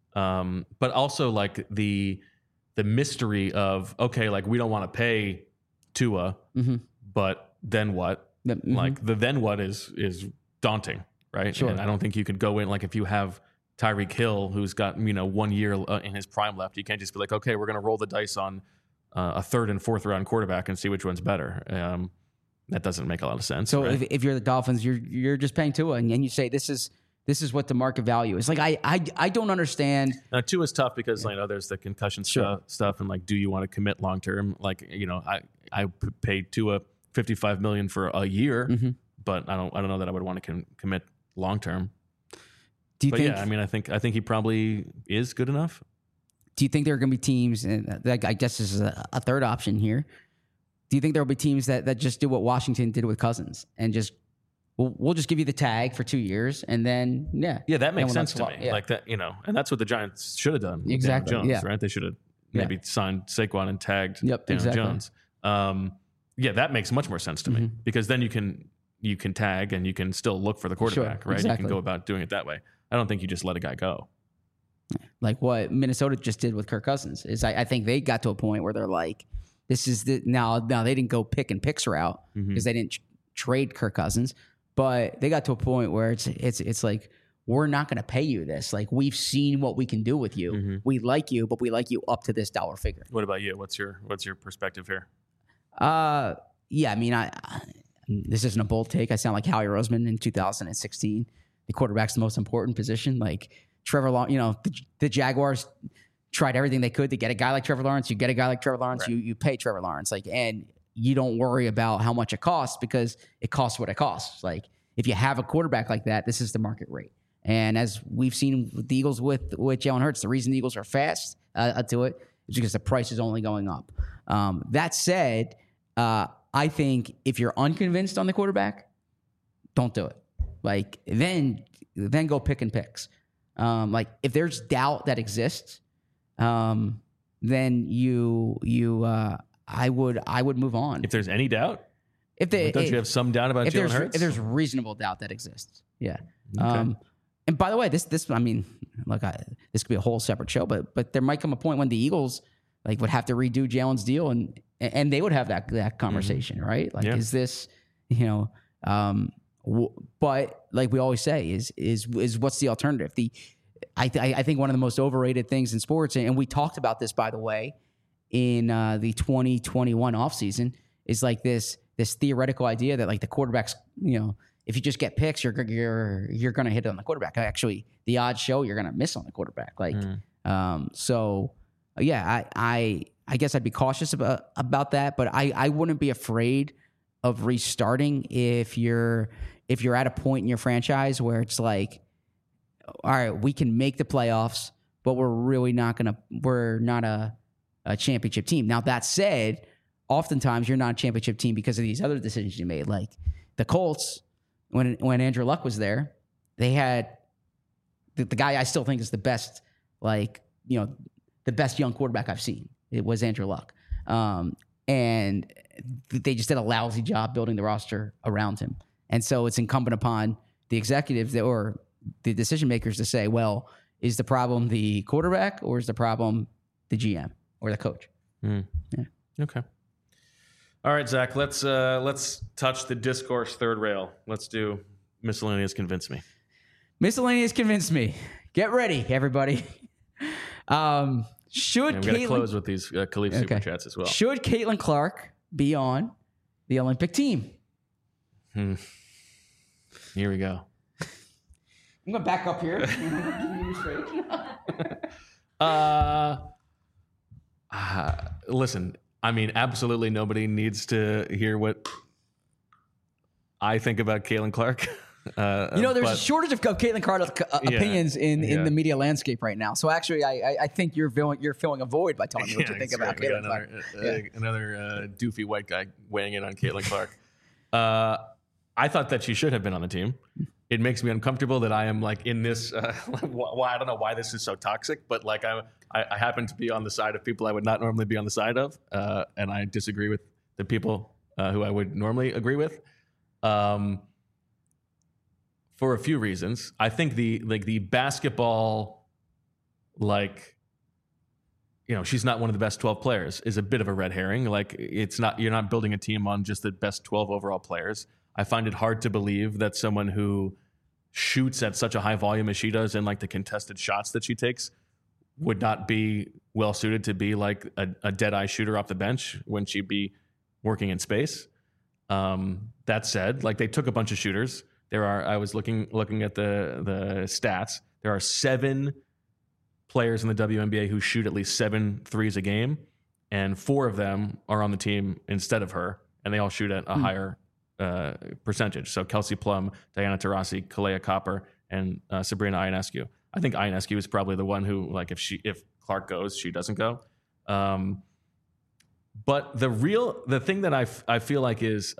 But also, like, the mystery of, okay, like, we don't want to pay Tua, mm-hmm. but then what? Mm-hmm. Like, the then what is daunting, right? Sure. And I don't think you could go in, like, if you have Tyreek Hill, who's got 1 year in his prime left, you can't just be like, okay, we're going to roll the dice on a third and fourth round quarterback and see which one's better. That doesn't make a lot of sense. So right? if you're the Dolphins, you're just paying Tua, and you say this is what the market value is. Like, I don't understand. Now, Tua is tough because there's the concussion stuff, and like, do you want to commit long term? Like, I paid Tua $55 million for a year, mm-hmm. but I don't know that I would want to commit long term. Do you think? Yeah, I mean, I think he probably is good enough. Do you think there are going to be teams, and I guess this is a third option here? Do you think there will be teams that just do what Washington did with Cousins and just we'll just give you the tag for 2 years and then that makes sense to me. Yeah. Like that, and that's what the Giants should have done. Exactly. Daniel Jones, yeah. right? They should have maybe signed Saquon and tagged Daniel exactly. Jones. That makes much more sense to me because then you can tag and you can still look for the quarterback, right? Exactly. You can go about doing it that way. I don't think you just let a guy go. Like what Minnesota just did with Kirk Cousins is I think they got to a point where they're like, this is now they didn't go pick and picks route because they didn't trade Kirk Cousins, but they got to a point where it's like, we're not going to pay you this. Like, we've seen what we can do with you. Mm-hmm. We like you, but we like you up to this dollar figure. What about you? What's your perspective here? Yeah, I mean, this isn't a bold take. I sound like Howie Roseman in 2016. The quarterback's the most important position. Like Trevor Lawrence, the Jaguars tried everything they could to get a guy like Trevor Lawrence. You get a guy like Trevor Lawrence, right. you pay Trevor Lawrence, and you don't worry about how much it costs because it costs what it costs. Like, if you have a quarterback like that, this is the market rate. And as we've seen with the Eagles with Jalen Hurts, the reason the Eagles are fast to it is because the price is only going up. That said, I think if you're unconvinced on the quarterback, don't do it. Like, then go pick and picks. Like, if there's doubt that exists, then I would move on. If there's any doubt, don't you have some doubt about Jalen Hurts? If there's reasonable doubt that exists, yeah. Okay. And by the way, this I mean, look, this could be a whole separate show, but there might come a point when the Eagles would have to redo Jalen's deal, and they would have that conversation, right? Like, is this, but like we always say, is what's the alternative? I think one of the most overrated things in sports, and we talked about this, by the way, in the 2021 offseason, is like this theoretical idea that like the quarterbacks, if you just get picks, you're going to hit it on the quarterback. Actually, the odds show you're going to miss on the quarterback. Like, so yeah, I guess I'd be cautious about that, but I wouldn't be afraid of restarting if you're at a point in your franchise where it's like, all right, we can make the playoffs, but we're not a championship team. Now, that said, oftentimes you're not a championship team because of these other decisions you made. Like the Colts, when Andrew Luck was there, they had the guy I still think is the best, like the best young quarterback I've seen. It was Andrew Luck. And they just did a lousy job building the roster around him. And so it's incumbent upon the executives or the decision makers to say, well, is the problem the quarterback or is the problem the GM or the coach? Yeah. Okay. All right, Zach, let's touch the discourse third rail. Let's do miscellaneous convince me. Miscellaneous convince me. Get ready, everybody. Should I'm going to close with these Khalif super chats as well. Should Caitlin Clark be on the Olympic team? Here we go. I'm going to back up here. I'm you straight. Listen, I mean, absolutely nobody needs to hear what I think about Caitlin Clark. There's a shortage of Caitlin Clark opinions in the media landscape right now. So actually, I think you're filling a void by telling me what you think about Caitlin Clark. Another doofy white guy weighing in on Caitlin Clark. I thought that she should have been on the team. It makes me uncomfortable that I am like in this. Why I don't know why this is so toxic, but like I happen to be on the side of people I would not normally be on the side of, and I disagree with the people who I would normally agree with. For a few reasons. I think the basketball, she's not one of the best 12 players is a bit of a red herring. Like you're not building a team on just the best 12 overall players. I find it hard to believe that someone who shoots at such a high volume as she does and like the contested shots that she takes would not be well suited to be like a dead eye shooter off the bench when she'd be working in space. That said, like they took a bunch of shooters. I was looking at the stats. There are 7 players in the WNBA who shoot at least 7 threes a game, and 4 of them are on the team instead of her, and they all shoot at a higher percentage. So Kelsey Plum, Diana Taurasi, Kalea Copper, and Sabrina Ionescu. I think Ionescu is probably the one who, like, if Clark goes, she doesn't go. But the thing that I feel like is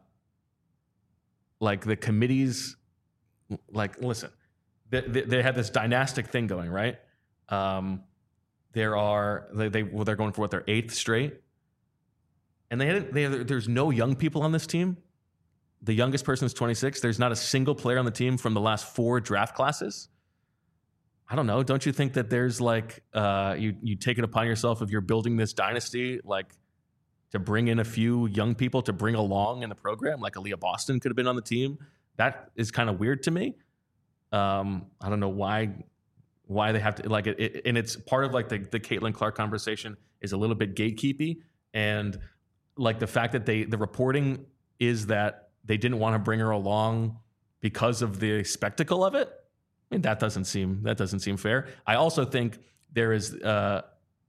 like the committees, like, listen, they have this dynastic thing going, right? They're going for their 8th straight, and there's no young people on this team. The youngest person is 26. There's not a single player on the team from the last 4 draft classes. I don't know. Don't you think that there's like you take it upon yourself if you're building this dynasty, like, to bring in a few young people to bring along in the program, like Aaliyah Boston could have been on the team? That is kind of weird to me. I don't know why they have to like it, and it's part of like the Caitlin Clark conversation is a little bit gatekeepy, and like the fact that the reporting is that they didn't want to bring her along because of the spectacle of it. I mean, that doesn't seem fair. I also think there is a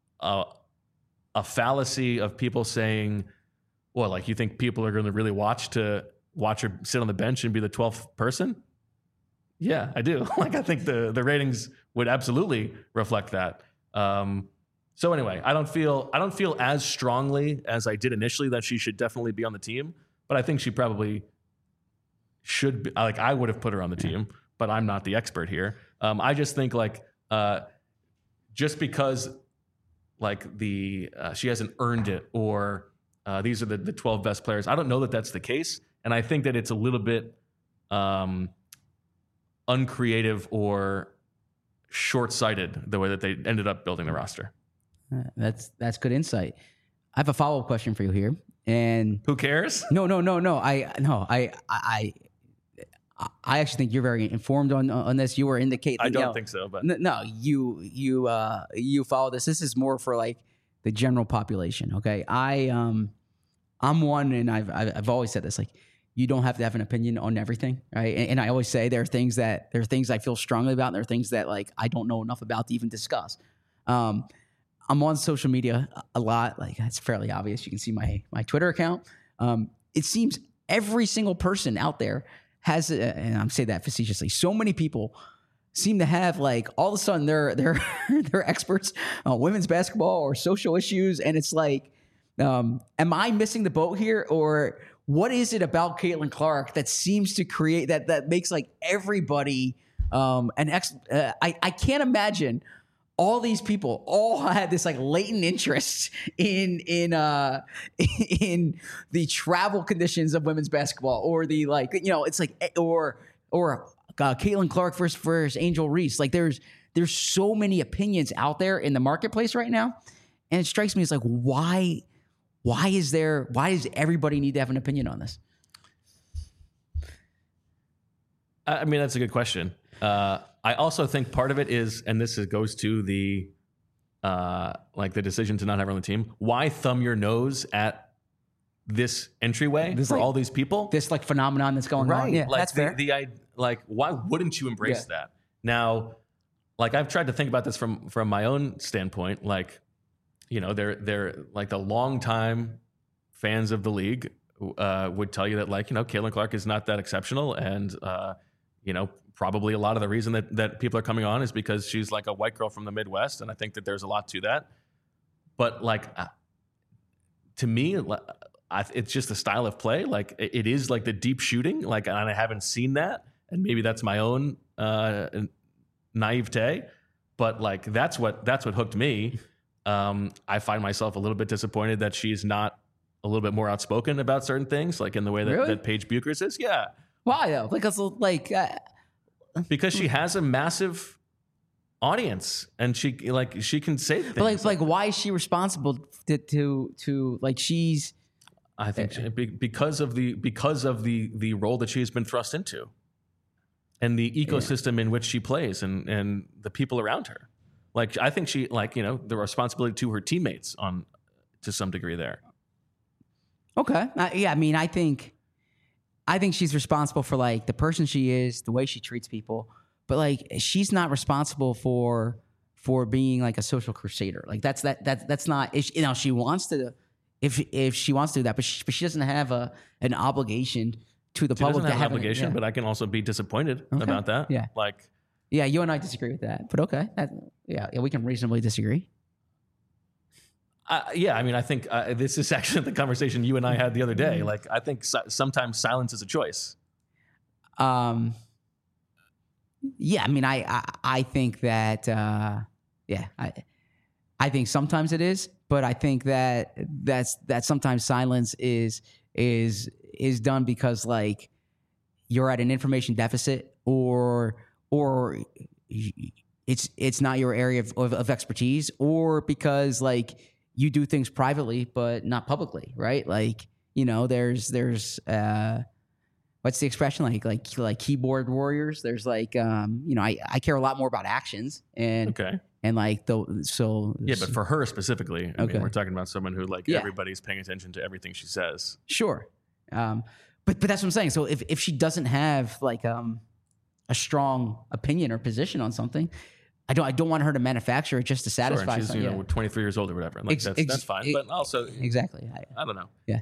fallacy of people saying, well, like, you think people are going to really watch her sit on the bench and be the 12th person? Yeah, I do. Like, I think the ratings would absolutely reflect that. So anyway, I don't feel as strongly as I did initially that she should definitely be on the team, but I think she probably should be. Like, I would have put her on the team, but I'm not the expert here. I just think like just because like she hasn't earned it, or these are the 12 best players, I don't know that that's the case, and I think that it's a little bit uncreative or short-sighted the way that they ended up building the roster. That's good insight. I have a follow-up question for you here. And who cares? No. I actually think you're very informed on this. You were indicating. I don't think so, but no, you follow this. This is more for like the general population. Okay, I'm one, and I've always said this. Like, you don't have to have an opinion on everything, right? And I always say there are things I feel strongly about, and there are things that like I don't know enough about to even discuss. I'm on social media a lot. Like, it's fairly obvious. You can see my Twitter account. It seems every single person out there has, and I'm saying that facetiously, so many people seem to have like all of a sudden they're experts on women's basketball or social issues, and it's like, am I missing the boat here, or what is it about Caitlin Clark that seems to create that makes like everybody I can't imagine all these people all had this like latent interest in the travel conditions of women's basketball, or the like, you know, it's like, or Caitlin Clark versus Angel Reese. Like there's so many opinions out there in the marketplace right now, and it strikes me as like, why does everybody need to have an opinion on this? I mean, that's a good question. I also think part of it is, and this goes to the like the decision to not have her on the team. Why thumb your nose at this entryway for all these people? This like phenomenon that's going on. Yeah, like that's fair. Like, why wouldn't you embrace that? Now, like I've tried to think about this from my own standpoint. Like, you know, they're like the longtime fans of the league would tell you that, like, you know, Caitlin Clark is not that exceptional, and you know, probably a lot of the reason that people are coming on is because she's like a white girl from the Midwest, and I think that there's a lot to that. But like, to me, it's just the style of play. Like, it is like the deep shooting. Like, and I haven't seen that, and maybe that's my own naivete. But like, that's what hooked me. I find myself a little bit disappointed that she's not a little bit more outspoken about certain things, like in the way that Paige Buchers is. Yeah. Why though? Because because she has a massive audience, and she can say things. But like why is she responsible to like she's? I think because of the role that she has been thrust into, and the ecosystem in which she plays, and the people around her. Like, I think she, like, you know, the responsibility to her teammates to some degree there. Okay. Yeah. I mean, I think she's responsible for like the person she is, the way she treats people, but like she's not responsible for being like a social crusader. Like that's not, you know, she wants to, if she wants to do that, but she doesn't have an obligation to the public. She doesn't have an obligation, but I can also be disappointed about that. Yeah. Like, yeah, you and I disagree with that, but okay. Yeah, we can reasonably disagree. Yeah, I mean, I think this is actually the conversation you and I had the other day. Like, I think sometimes silence is a choice. Yeah, I mean, I think that, I think sometimes it is, but I think that sometimes silence is done because like you're at an information deficit, or it's not your area of expertise, or because like you do things privately but not publicly, right? Like, you know, there's what's the expression, like keyboard warriors. There's like you know, I care a lot more about actions and like but for her specifically, I mean, we're talking about someone who like everybody's paying attention to everything she says. Sure, but that's what I'm saying. So if she doesn't have like a strong opinion or position on something, I don't want her to manufacture it just to satisfy. Sure, and she's 23 years old or whatever. Like that's fine. But also exactly, I don't know. Yeah,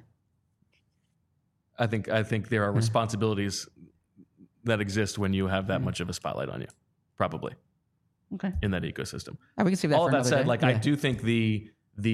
I think there are responsibilities that exist when you have that much of a spotlight on you, probably. Okay. In that ecosystem. We can save that. All for of that said, day. like I do think the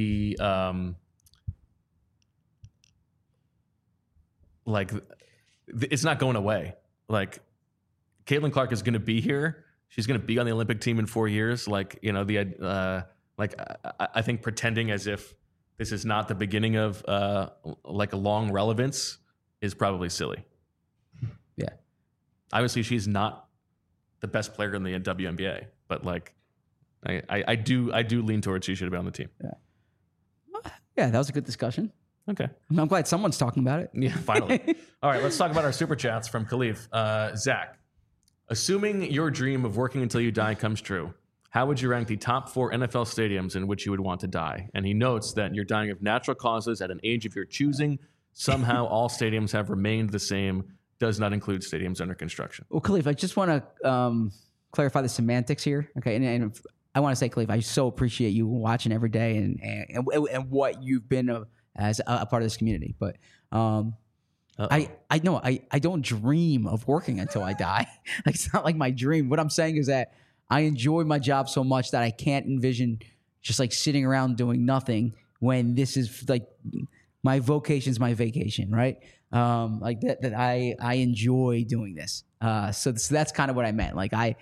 like it's not going away. Like Caitlin Clark is going to be here. She's going to be on the Olympic team in 4 years. Like, you know, I think pretending as if this is not the beginning of like a long relevance is probably silly. Yeah. Obviously, she's not the best player in the WNBA, but like I do lean towards she should have been on the team. Yeah, that was a good discussion. Okay. I'm glad someone's talking about it. Yeah, finally. All right, let's talk about our super chats from Khalif. Zach, assuming your dream of working until you die comes true, how would you rank the top 4 NFL stadiums in which you would want to die? And he notes that you're dying of natural causes at an age of your choosing. Somehow all stadiums have remained the same. Does not include stadiums under construction. Well, Khalif, I just want to clarify the semantics here. Okay, and I want to say, Khalif, I so appreciate you watching every day and what you've been as a part of this community. But I don't dream of working until I die. Like, it's not like my dream. What I'm saying is that I enjoy my job so much that I can't envision just like sitting around doing nothing when this is like my vocation's my vacation, right? Like that I enjoy doing this. So that's kind of what I meant. Like I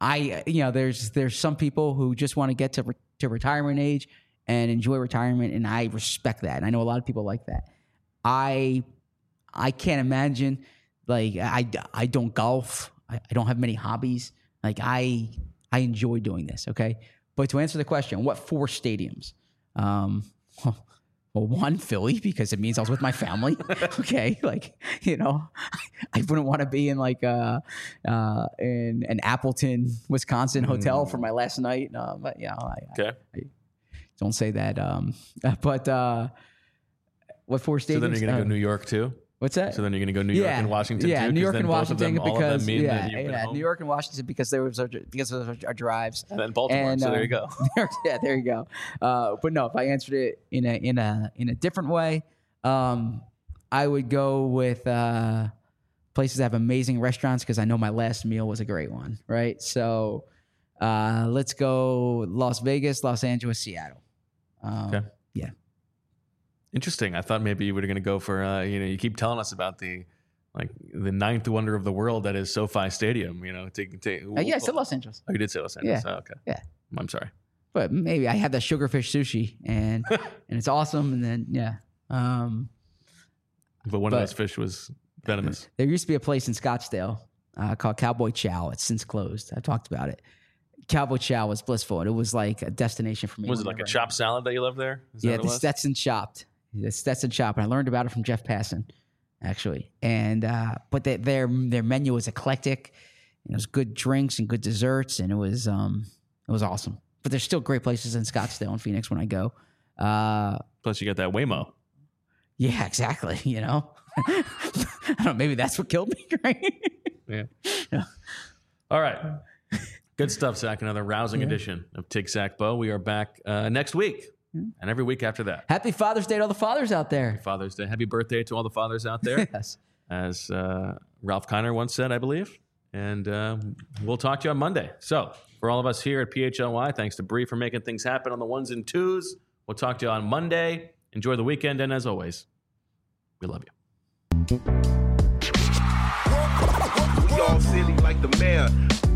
there's some people who just want to get to retirement age and enjoy retirement, and I respect that. And I know a lot of people like that. I can't imagine, like, I don't golf. I don't have many hobbies. Like, I enjoy doing this, okay? But to answer the question, what 4 stadiums? Well, 1, Philly, because it means I was with my family. Okay, like, I wouldn't want to be in like in an Appleton, Wisconsin hotel for my last night. But I don't say that. But what 4 stadiums? So then you're going to go New York too? What's that? So then you're going to go New York and Washington too? Yeah, New York and Washington because New York and Washington because of our drives. And then Baltimore. So there you go. Yeah, there you go. But no, if I answered it in a different way, I would go with places that have amazing restaurants because I know my last meal was a great one. Right. So let's go Las Vegas, Los Angeles, Seattle. Okay. Yeah. Interesting. I thought maybe you were going to go for, you keep telling us about the ninth wonder of the world that is SoFi Stadium, yeah, I said Los Angeles. Oh, you did say Los Angeles. Yeah. Oh, okay. Yeah. I'm sorry. But maybe I had that sugarfish sushi and it's awesome. And then, yeah. But one of those fish was venomous. There used to be a place in Scottsdale called Cowboy Chow. It's since closed. I talked about it. Cowboy Chow was blissful. And it was like a destination for me. Was it like a chopped salad that you loved there? The Stetson chopped. The Stetson Shop, and I learned about it from Jeff Passan, actually. And but their menu was eclectic. It was good drinks and good desserts, and it was awesome. But there's still great places in Scottsdale and Phoenix when I go. Plus, you got that Waymo. Yeah, exactly. I don't know. Maybe that's what killed me. Right? Yeah. All right. Good stuff, Zach. Another rousing edition of Tig Zach Bo. We are back next week. And every week after that. Happy Father's Day to all the fathers out there. Happy Father's Day. Happy birthday to all the fathers out there. Yes. As Ralph Kiner once said, I believe. And we'll talk to you on Monday. So for all of us here at PHLY, thanks to Bree for making things happen on the 1s and 2s. We'll talk to you on Monday. Enjoy the weekend. And as always, we love you. We all silly like the mayor.